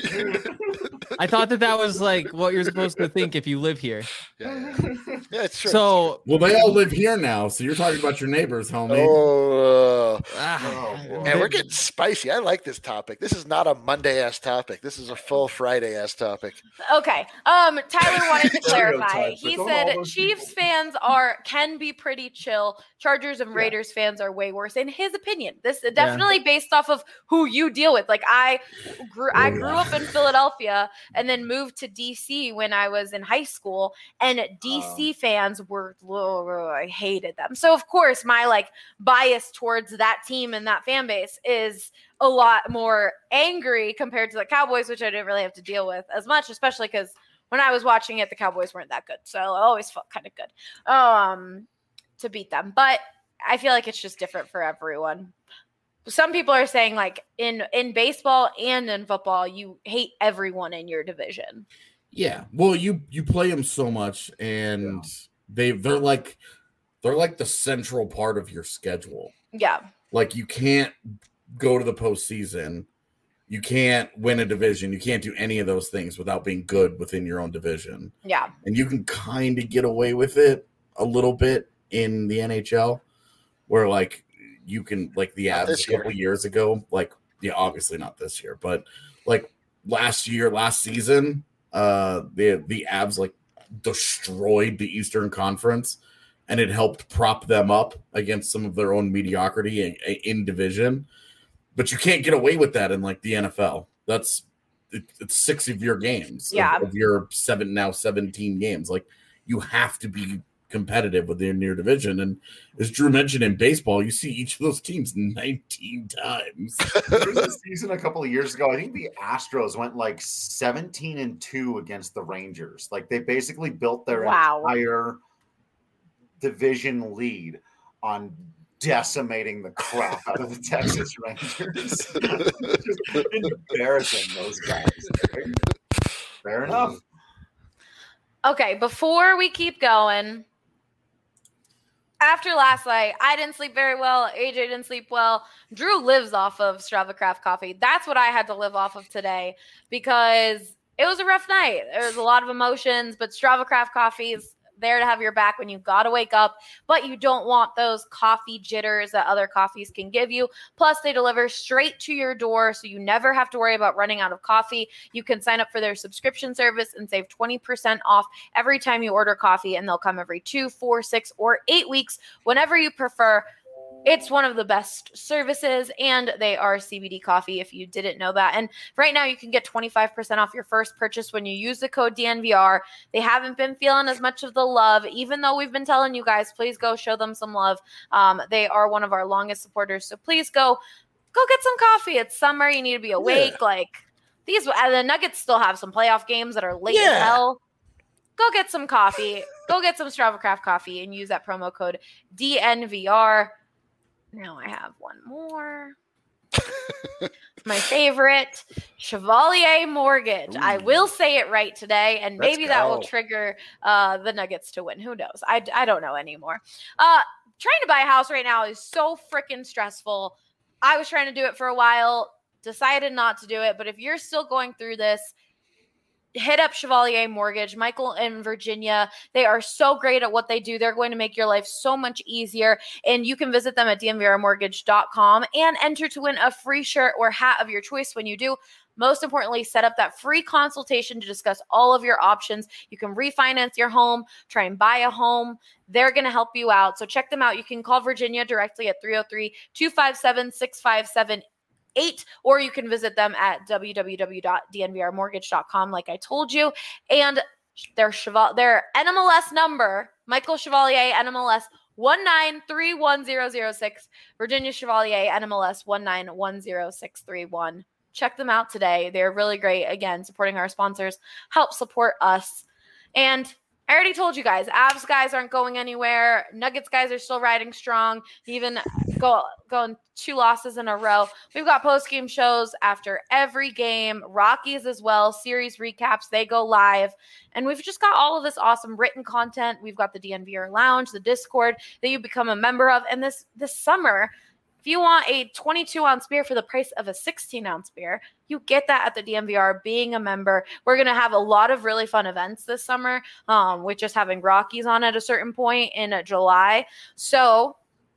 I thought that that was like what you're supposed to think if you live here. Yeah, yeah. yeah it's true. So, well, they all live here now, so you're talking about your neighbors, homie. Oh, uh, ah, oh man, we're getting spicy. I like this topic. This is not a Monday ass topic. This is a full Friday ass topic. Okay. Um, Tyler wanted to clarify. He said Chiefs fans are can be pretty chill. Chargers and Raiders yeah. fans are way worse, in his opinion. This is definitely yeah. based off of who you deal with. Like, I grew, I grew up in Philadelphia and then moved to D C when I was in high school, and D C um, fans were, oh, I hated them. So of course my like bias towards that team and that fan base is a lot more angry compared to the Cowboys, which I didn't really have to deal with as much, especially because when I was watching it, the Cowboys weren't that good. So I always felt kind of good um, to beat them. But I feel like it's just different for everyone. Some people are saying, like, in, in baseball and in football, you hate everyone in your division. Yeah. Well, you, you play them so much, and they, they're like, they're like the central part of your schedule. Yeah. Like, you can't go to the postseason. You can't win a division. You can't do any of those things without being good within your own division. Yeah. And you can kind of get away with it a little bit in the N H L, where, like, you can, like, the Avs a couple years ago, like, yeah, obviously not this year, but like last year, last season, uh, the the Avs like destroyed the Eastern Conference, and it helped prop them up against some of their own mediocrity in, in division. But you can't get away with that in like the N F L. That's it, it's six of your games, yeah. of, of your seven now seventeen games. Like you have to be competitive within your division. And as Drew mentioned, in baseball, you see each of those teams nineteen times. There was a season a couple of years ago. I think the Astros went like seventeen and two against the Rangers. Like they basically built their wow. entire division lead on decimating the crap out of the Texas Rangers. Just embarrassing those guys. Fair enough. Okay, before we keep going, after last night, I didn't sleep very well. A J didn't sleep well. Drew lives off of Strava Craft Coffee. That's what I had to live off of today because it was a rough night. There was a lot of emotions, but Strava Craft Coffee is there to have your back when you got to wake up, but you don't want those coffee jitters that other coffees can give you. Plus, they deliver straight to your door, so you never have to worry about running out of coffee. You can sign up for their subscription service and save twenty percent off every time you order coffee, and they'll come every two, four, six, or eight weeks, whenever you prefer. It's one of the best services, and they are C B D coffee if you didn't know that. And right now you can get twenty-five percent off your first purchase when you use the code D N V R. They haven't been feeling as much of the love, even though we've been telling you guys, please go show them some love. Um, they are one of our longest supporters, so please go, go get some coffee. It's summer. You need to be awake. Yeah. Like these, and the Nuggets still have some playoff games that are late yeah. as hell. Go get some coffee. Go get some Strava Craft coffee and use that promo code D N V R. Now I have one more. My favorite, Chevalier Mortgage. Ooh. I will say it right today, and Let's maybe go. that will trigger uh, the Nuggets to win. Who knows? I, I don't know anymore. Uh, trying to buy a house right now is so freaking stressful. I was trying to do it for a while, decided not to do it, but if you're still going through this, hit up Chevalier Mortgage. Michael and Virginia, they are so great at what they do. They're going to make your life so much easier. And you can visit them at D N V R mortgage dot com and enter to win a free shirt or hat of your choice when you do. Most importantly, set up that free consultation to discuss all of your options. You can refinance your home, try and buy a home. They're going to help you out. So check them out. You can call Virginia directly at three oh three, two five seven, six five seven eight, or you can visit them at w w w dot d n v r mortgage dot com, like I told you. And their Cheval- their N M L S number, Michael Chevalier, N M L S one nine three one zero zero six, Virginia Chevalier, N M L S one nine one zero six three one. Check them out today. They're really great. Again, supporting our sponsors, help support us. And I already told you guys, Avs guys aren't going anywhere. Nuggets guys are still riding strong, even go, going two losses in a row. We've got post-game shows after every game, Rockies as well, series recaps, they go live. And we've just got all of this awesome written content. We've got the D N V R Lounge, the Discord that you become a member of. And this this summer, if you want a twenty-two ounce beer for the price of a sixteen ounce beer, you get that at the D N V R being a member. We're going to have a lot of really fun events this summer, um, with just having Rockies on at a certain point in uh, July. So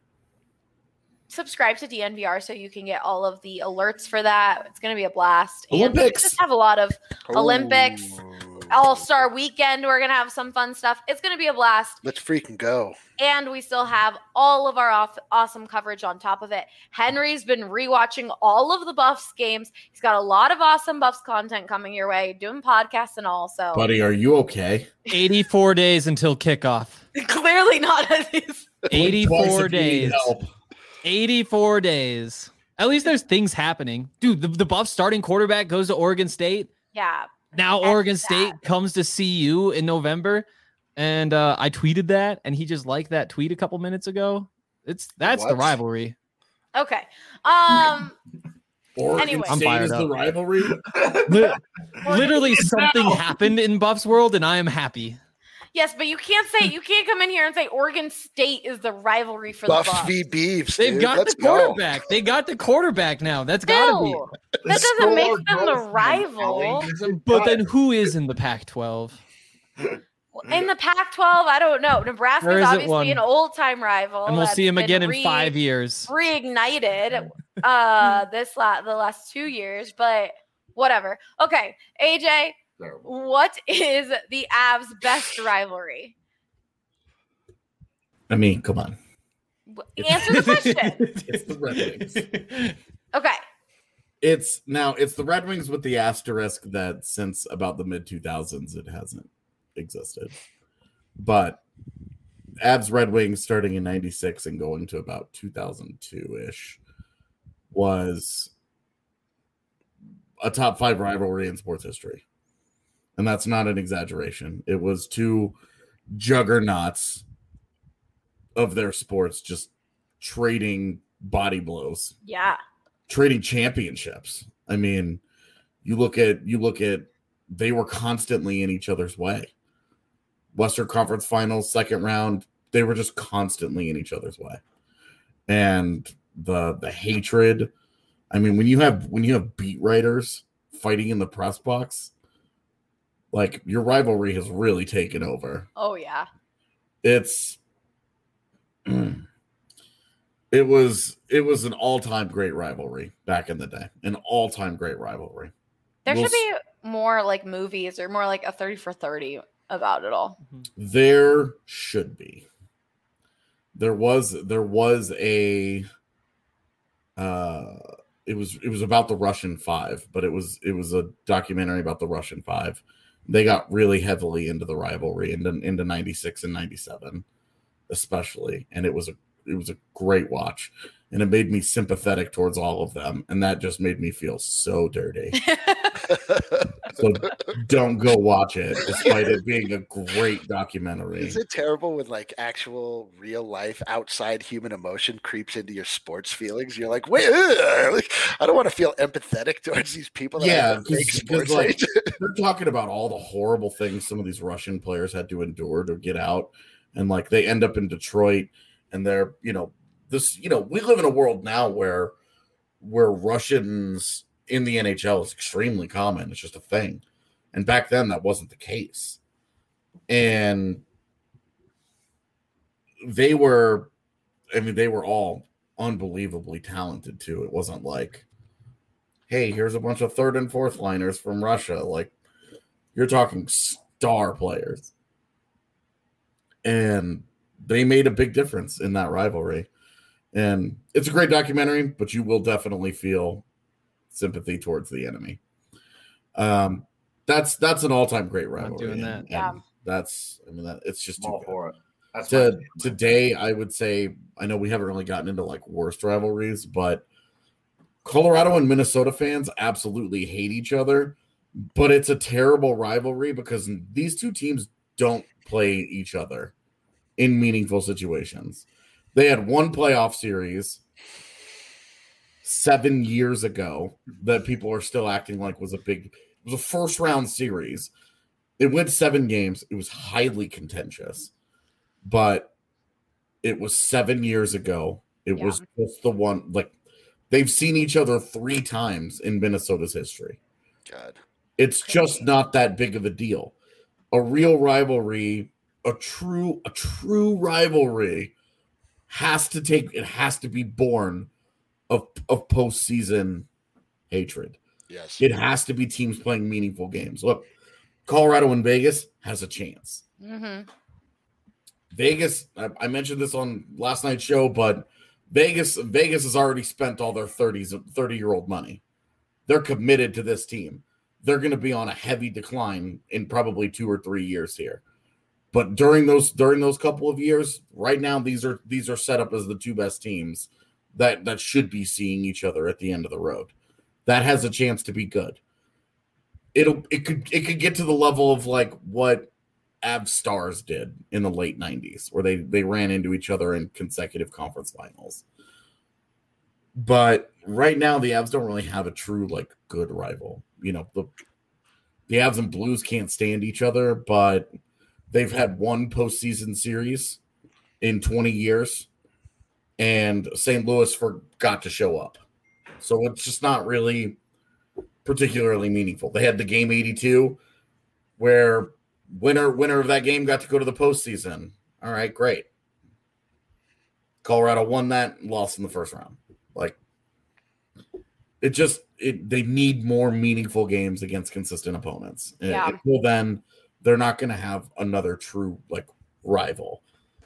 subscribe to D N V R so you can get all of the alerts for that. It's going to be a blast. Olympics. And we just have a lot of Ooh. Olympics. All-Star Weekend. We're going to have some fun stuff. It's going to be a blast. Let's freaking go. And we still have all of our off- awesome coverage on top of it. Henry's been rewatching all of the Buffs games. He's got a lot of awesome Buffs content coming your way, doing podcasts and all. So, buddy, are you okay? eighty-four days until kickoff. Clearly not. eighty-four days. eighty-four days. At least there's things happening. Dude, the, the Buffs starting quarterback goes to Oregon State. Yeah. Now Oregon State that. comes to see you in November, and uh, I tweeted that, and he just liked that tweet a couple minutes ago. It's that's what? the rivalry. Okay. Um. Oregon anyway. State I'm is up. the rivalry. Literally, something happened in Buffs world, and I am happy. Yes, but you can't say you can't come in here and say Oregon State is the rivalry for Buffs the Buffs. v. Beavs. They've dude. got Let's the quarterback. Go. They got the quarterback now. That's got to be. That doesn't make them the rival. But then who is in the Pac twelve? In the Pac twelve, I don't know. Nebraska's obviously an old-time rival. And we'll see him again re- in five years. Reignited uh, this la- the last two years, but whatever. Okay, A J, what is the Avs' best rivalry? I mean, come on. Answer the question. It's the Red Wings. Okay. It's now it's the Red Wings with the asterisk that since about the mid two thousands it hasn't existed. But Avs Red Wings starting in ninety-six and going to about two thousand two-ish was a top five rivalry in sports history. And that's not an exaggeration. It was two juggernauts of their sports just trading body blows. Yeah. Trading championships. I mean, you look at you look at they were constantly in each other's way. Western Conference Finals, second round, they were just constantly in each other's way. And the the hatred, I mean, when you have when you have beat writers fighting in the press box, like your rivalry has really taken over. Oh yeah. It's it was it was an all-time great rivalry back in the day. An all-time great rivalry. There We'll should be more like movies or more like a thirty for thirty about it all. There should be. There was there was a uh it was it was about the Russian Five, but it was it was a documentary about the Russian Five. They got really heavily into the rivalry into into ninety-six and ninety-seven, especially, and it was a it was a great watch, and it made me sympathetic towards all of them, and that just made me feel so dirty. So don't go watch it, despite it being a great documentary. Is it terrible when like actual real life outside human emotion creeps into your sports feelings? You're like, wait, ugh, like, I don't want to feel empathetic towards these people. That Yeah, have fake sports like, hate. they're talking about all the horrible things some of these Russian players had to endure to get out, and like they end up in Detroit, and they're you know this you know we live in a world now where where Russians in the N H L is extremely common. It's just a thing. And back then that wasn't the case. And they were, I mean, they were all unbelievably talented too. It wasn't like, hey, here's a bunch of third and fourth liners from Russia. Like, you're talking star players. And they made a big difference in that rivalry. And it's a great documentary, but you will definitely feel sympathy towards the enemy. Um, that's that's an all-time great rivalry. doing and- that. and Yeah. That's I mean that it's just too all good. for it. That's To, my- today, I would say I know we haven't really gotten into like worst rivalries, but Colorado and Minnesota fans absolutely hate each other. But it's a terrible rivalry because these two teams don't play each other in meaningful situations. They had one playoff series seven years ago that people are still acting like was a big, it was a first round series. It went seven games. It was highly contentious, but it was seven years ago. It Yeah. was just the one, like they've seen each other three times in Minnesota's history. God. It's just not that big of a deal. A real rivalry, a true, a true rivalry has to take, it has to be born of, of postseason hatred. Yes. It has to be teams playing meaningful games. Look, Colorado and Vegas has a chance. Mm-hmm. Vegas, I, I mentioned this on last night's show, but Vegas, Vegas has already spent all their thirties, thirty-year-old money. They're committed to this team. They're going to be on a heavy decline in probably two or three years here. But during those during those couple of years, right now these are these are set up as the two best teams that that should be seeing each other at the end of the road. That has a chance to be good. It'll it could it could get to the level of like what Avs Stars did in the late nineties, where they they ran into each other in consecutive conference finals. But right now, the Avs don't really have a true like good rival. You know, the the Avs and Blues can't stand each other, but they've had one postseason series in twenty years, and Saint Louis forgot to show up. So it's just not really particularly meaningful. They had the game eighty-two where winner winner of that game got to go to the postseason. All right, great. Colorado won that and lost in the first round. Like it just it they need more meaningful games against consistent opponents. Yeah. Until then, they're not going to have another true like rival.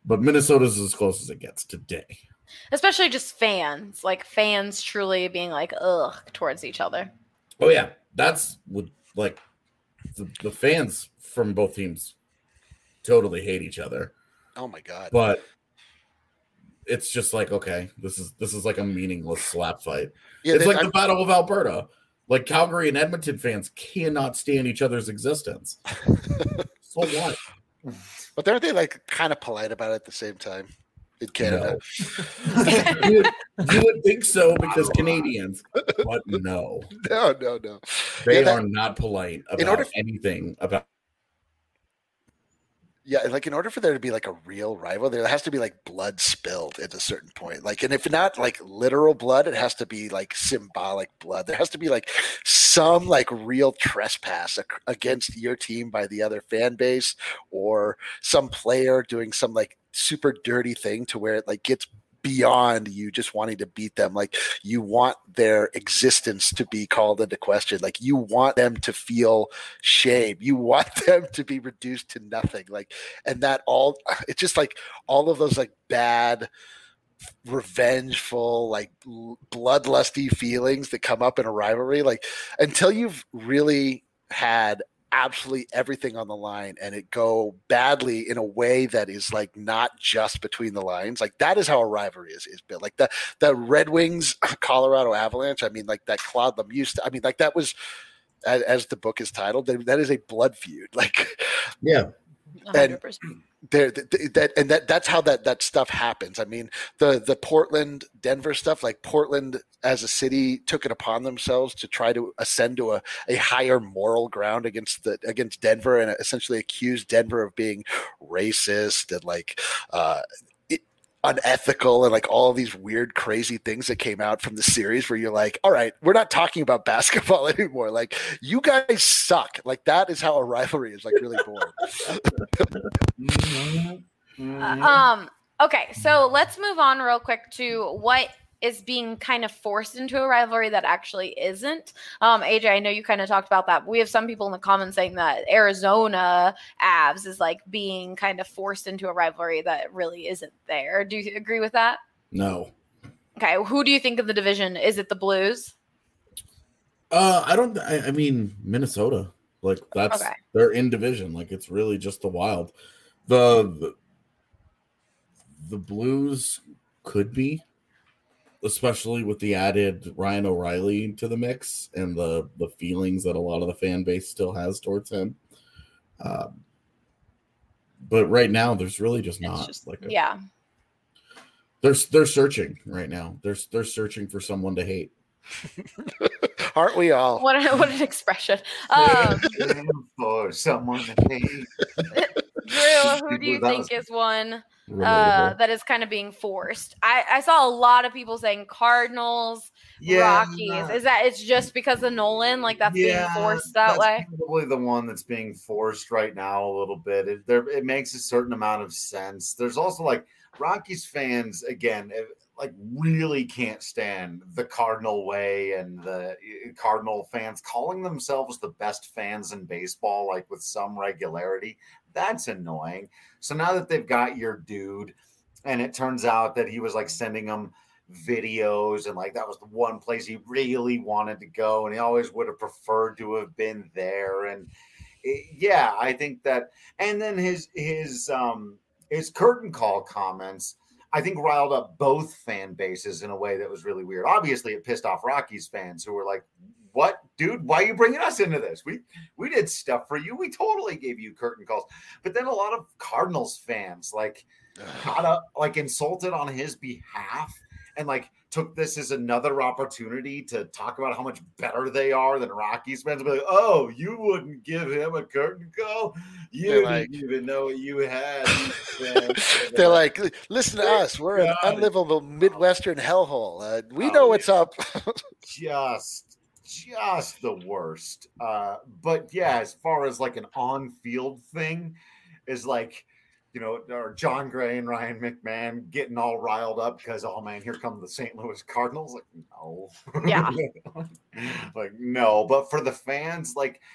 but Minnesota's as close as it gets today. Especially just fans, like fans truly being like, ugh, towards each other. Oh, yeah. That's what, like, the, the fans from both teams totally hate each other. Oh, my God. But it's just like, okay, this is this is like a meaningless slap fight. Yeah, it's they, like I'm, the Battle of Alberta. Like Calgary and Edmonton fans cannot stand each other's existence. So what? But aren't they like kind of polite about it at the same time in Canada? No. you, would, you would think so because Canadians, but no. No, no, no. They yeah, that, are not polite about in order, anything about. Yeah, like in order for there to be like a real rival, there has to be like blood spilled at a certain point. Like, and if not like literal blood, it has to be like symbolic blood. There has to be like some like real trespass against your team by the other fan base, or some player doing some like super dirty thing to where it like gets beyond you just wanting to beat them. Like you want their existence to be called into question. Like you want them to feel shame. You want them to be reduced to nothing. Like, and that all, it's just like all of those like bad, revengeful, like bloodlusty feelings that come up in a rivalry. Like until you've really had absolutely everything on the line and it go badly in a way that is like not just between the lines, like that is how a rivalry is is built. Like the the Red Wings Colorado Avalanche, I mean, like that Claude Lemieux, I mean, like that was, as, as the book is titled, that is a blood feud. Like, yeah, one hundred percent. And there that and that that's how that that stuff happens. I mean, the the Portland Denver stuff, like Portland as a city took it upon themselves to try to ascend to a, a higher moral ground against the against Denver and essentially accused Denver of being racist and like uh it, unethical and like all these weird crazy things that came out from the series where you're like, all right, we're not talking about basketball anymore. Like you guys suck. Like that is how a rivalry is like really born. uh, um okay, so let's move on real quick to what is being kind of forced into a rivalry that actually isn't. Um, A J, I know you kind of talked about that. But we have some people in the comments saying that Arizona Avs is like being kind of forced into a rivalry that really isn't there. Do you agree with that? No. Okay, who do you think of the division? Is it the Blues? Uh, I don't. I, I mean Minnesota. Like that's okay. They're in division. Like it's really just the Wild. The the, the Blues could be. Especially with the added Ryan O'Reilly to the mix and the, the feelings that a lot of the fan base still has towards him. Um, but right now, there's really just not just, like a, yeah. They're they're searching right now. They're they're searching for someone to hate. Aren't we all? What a, what an expression. Um, for someone to hate. Drew, who do you think is one uh, that is kind of being forced? I, I saw a lot of people saying Cardinals, yeah, Rockies. Is that it's just because of Nolan? Like that's yeah, being forced that that's way? Probably the one that's being forced right now a little bit. It, there, it makes a certain amount of sense. There's also like Rockies fans, again, like really can't stand the Cardinal way and the Cardinal fans calling themselves the best fans in baseball, like with some regularity. That's annoying. So now that they've got your dude, and it turns out that he was like sending them videos and like that was the one place he really wanted to go, and he always would have preferred to have been there. And it, yeah, I think that. And then his his um his curtain call comments, I think, riled up both fan bases in a way that was really weird. Obviously, it pissed off Rockies fans who were like, what, dude, why are you bringing us into this? We we did stuff for you. We totally gave you curtain calls. But then a lot of Cardinals fans like got up, like insulted on his behalf and like took this as another opportunity to talk about how much better they are than Rockies fans. Be like, oh, you wouldn't give him a curtain call? You They're didn't like, even know what you had. They're like, listen to us. We're an unlivable Midwestern hellhole. Uh, we know oh, what's up. just Just the worst. Uh, but yeah, as far as like an on-field thing is like, you know, or John Gray and Ryan McMahon getting all riled up because, oh man, here come the Saint Louis Cardinals. Like, no. Yeah. Like, no. But for the fans, like,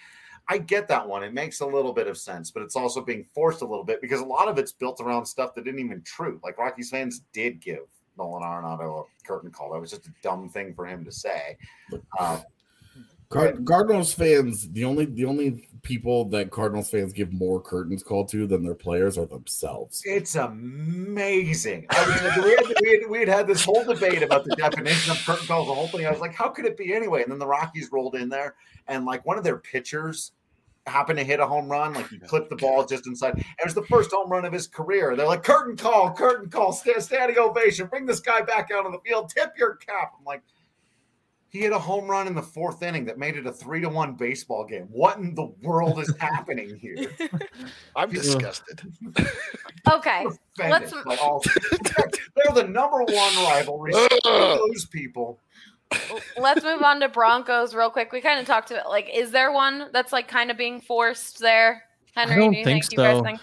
I get that one. It makes a little bit of sense, but it's also being forced a little bit because a lot of it's built around stuff that isn't even true. Like Rockies fans did give Nolan Arenado a curtain call. That was just a dumb thing for him to say. Uh, Card- Cardinals fans, the only the only people that Cardinals fans give more curtains call to than their players are themselves. It's amazing. I mean, we had, we, had, we had had this whole debate about the definition of curtain calls, the whole thing. I was like, how could it be anyway? And then the Rockies rolled in there, and like one of their pitchers happened to hit a home run. Like he clipped the ball just inside. It was the first home run of his career. They're like, curtain call, curtain call, stand, standing ovation. Bring this guy back out on the field. Tip your cap. I'm like, he hit a home run in the fourth inning that made it a three to one baseball game. What in the world is happening here? I'm disgusted. Okay, let's. Like all, they're the number one rivalry. Those people. Let's move on to Broncos real quick. We kind of talked about like, is there one that's like kind of being forced there? Henry, I don't do you think think, so. You guys think?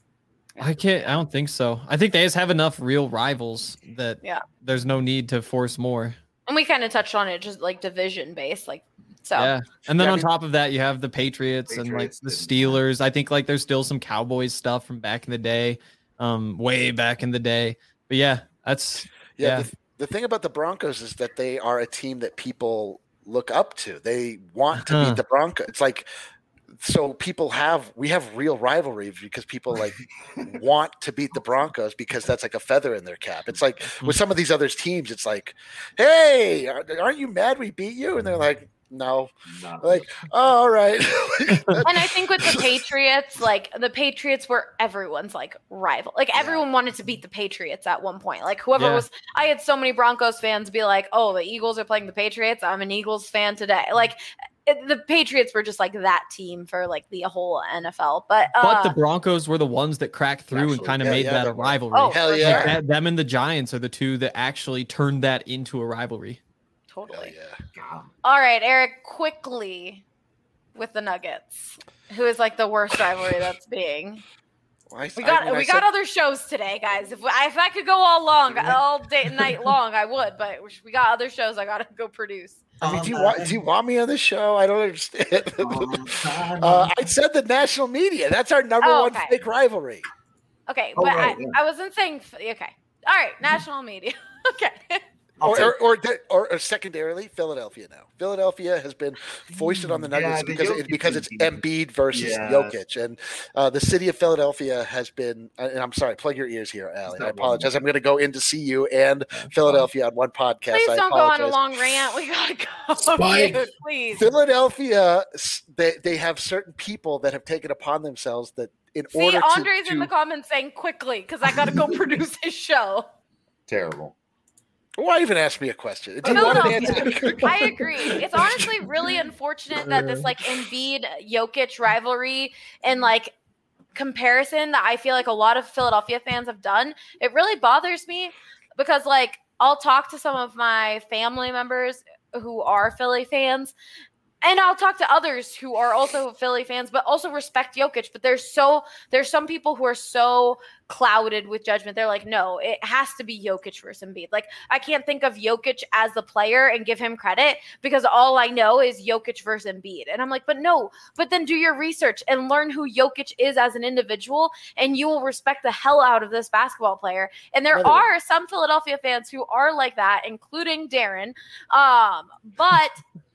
I can't. I don't think so. I think they just have enough real rivals that Yeah. there's no need to force more. And we kind of touched on it, just like division based, like so. Yeah, and then Yeah, I on mean- top of that, you have the Patriots, and like Patriots the didn't- Steelers. I think like there's still some Cowboys stuff from back in the day, um, way back in the day. But yeah, that's Yeah, yeah. The, the thing about the Broncos is that they are a team that people look up to. They want to Uh-huh. beat the Broncos. It's like, so people have, we have real rivalry because people like want to beat the Broncos because that's like a feather in their cap. It's like with some of these other teams, it's like, hey, aren't you mad we beat you? And they're like, no. No. Like, oh, all right. And I think with the Patriots, like the Patriots were everyone's like rival. Like everyone wanted to beat the Patriots at one point. Like whoever Yeah. was, I had so many Broncos fans be like, "Oh, the Eagles are playing the Patriots. I'm an Eagles fan today." Like it, the Patriots were just like that team for like the whole N F L. But uh, But the Broncos were the ones that cracked through Actually, and kind of yeah, made yeah, that they a were. rivalry. Oh, Hell for yeah. sure. That- them and the Giants are the two that actually turned that into a rivalry. Hell totally. yeah. God. All right, Eric, quickly with the Nuggets, who is like the worst rivalry that's being. Well, I- We I got mean, I we got said- other shows today, guys. If we, if I could go all long, all day and night long, I would. But we got other shows I gotta go produce. I mean, do you Um, want do you want me on the show? I don't understand. Um, uh, I said the national media. That's our number Oh, one okay. fake rivalry. Okay, Oh, but right, I, yeah. I wasn't saying. f- Okay, all right, national media. Okay. I'll Or, take- or, or, or, or secondarily, Philadelphia now. Philadelphia has been foisted on the Yeah, Nuggets the because it, Jokic because it's team. Embiid versus Yeah. Jokic, and uh, the city of Philadelphia has been. And I'm sorry, plug your ears here, Allie. I apologize. I'm going to go in to see you and Philadelphia on one podcast. Please I don't go on a apologize. long rant. We gotta go. Spike. Dude, please. Philadelphia, s- they they have certain people that have taken upon themselves that in See, order Andre's to, in to the comments saying quickly because I gotta go produce his show. Terrible. why even ask me a question? Do you want an Philadelphia. answer? I agree. It's honestly really unfortunate that this like Embiid Jokic rivalry and like comparison that I feel like a lot of Philadelphia fans have done, it really bothers me because like I'll talk to some of my family members who are Philly fans. And I'll talk to others who are also Philly fans, but also respect Jokic. But there's so there's some people who are so clouded with judgment. They're like, no, it has to be Jokic versus Embiid. Like, I can't think of Jokic as the player and give him credit because all I know is Jokic versus Embiid. And I'm like, but no, but then do your research and learn who Jokic is as an individual, and you will respect the hell out of this basketball player. And there Literally. are some Philadelphia fans who are like that, including Darren. Um, but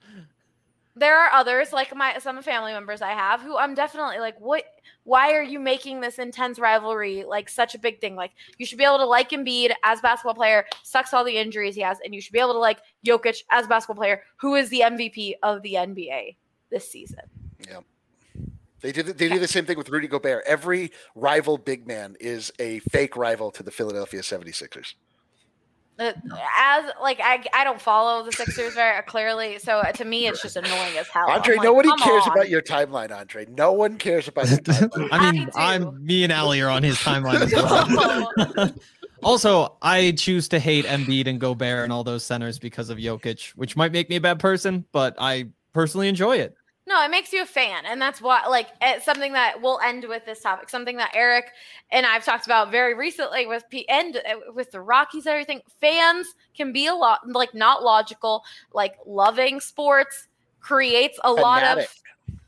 there are others, like my some family members I have, who I'm definitely like, what? Why are you making this intense rivalry like such a big thing? Like, you should be able to like Embiid as a basketball player, sucks all the injuries he has, and you should be able to like Jokic as a basketball player, who is the M V P of the N B A this season. Yeah. They did they do the same thing with Rudy Gobert. Every rival big man is a fake rival to the Philadelphia seventy-sixers. Uh, As like I, I don't follow the Sixers very clearly, so to me it's just annoying as hell. Andre, I'm like, nobody come cares on. about your timeline, Andre. No one cares about your timeline. I mean, I do. I'm me and Allie are on his timeline as well. Also, I choose to hate Embiid and Gobert and all those centers because of Jokic, which might make me a bad person, but I personally enjoy it. No, it makes you a fan, and that's why, like, it's something that we'll end with this topic. Something that Eric and I've talked about very recently with P and uh, with the Rockies and everything. Fans can be a lot like not logical. Like, loving sports creates a lot of Fanatic.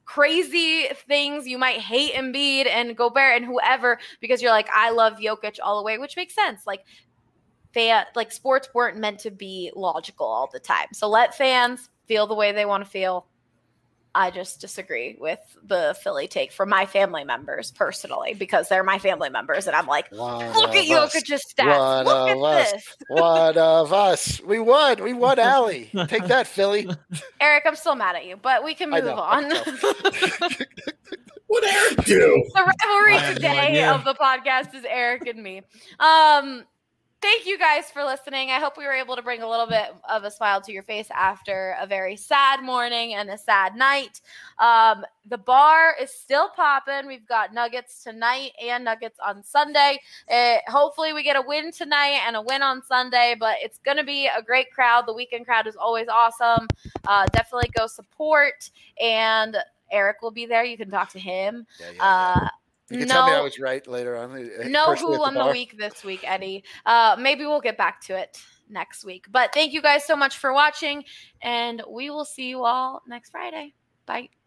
crazy things. You might hate Embiid and Gobert and whoever because you're like, I love Jokic all the way, which makes sense. Like, fan, like sports weren't meant to be logical all the time. So let fans feel the way they want to feel. I just disagree with the Philly take for my family members personally because they're my family members. And I'm like, One look at Jokic's stats. One Look of at us. this. One of us. We won. We won, Allie. Take that, Philly. Eric, I'm still mad at you, but we can I move know, on. I What Eric do? The rivalry I have no today idea. of the podcast is Eric and me. Um, thank you guys for listening. I hope we were able to bring a little bit of a smile to your face after a very sad morning and a sad night. Um, the bar is still popping. We've got Nuggets tonight and Nuggets on Sunday. It, hopefully we get a win tonight and a win on Sunday, but it's going to be a great crowd. The weekend crowd is always awesome. Uh, definitely go support, and Eric will be there. You can talk to him. Yeah, yeah, yeah. Uh, You can no, tell me I was right later on. uh, no personally who at won the bar. week this week, Eddie. Uh, maybe we'll get back to it next week. But thank you guys so much for watching, and we will see you all next Friday. Bye.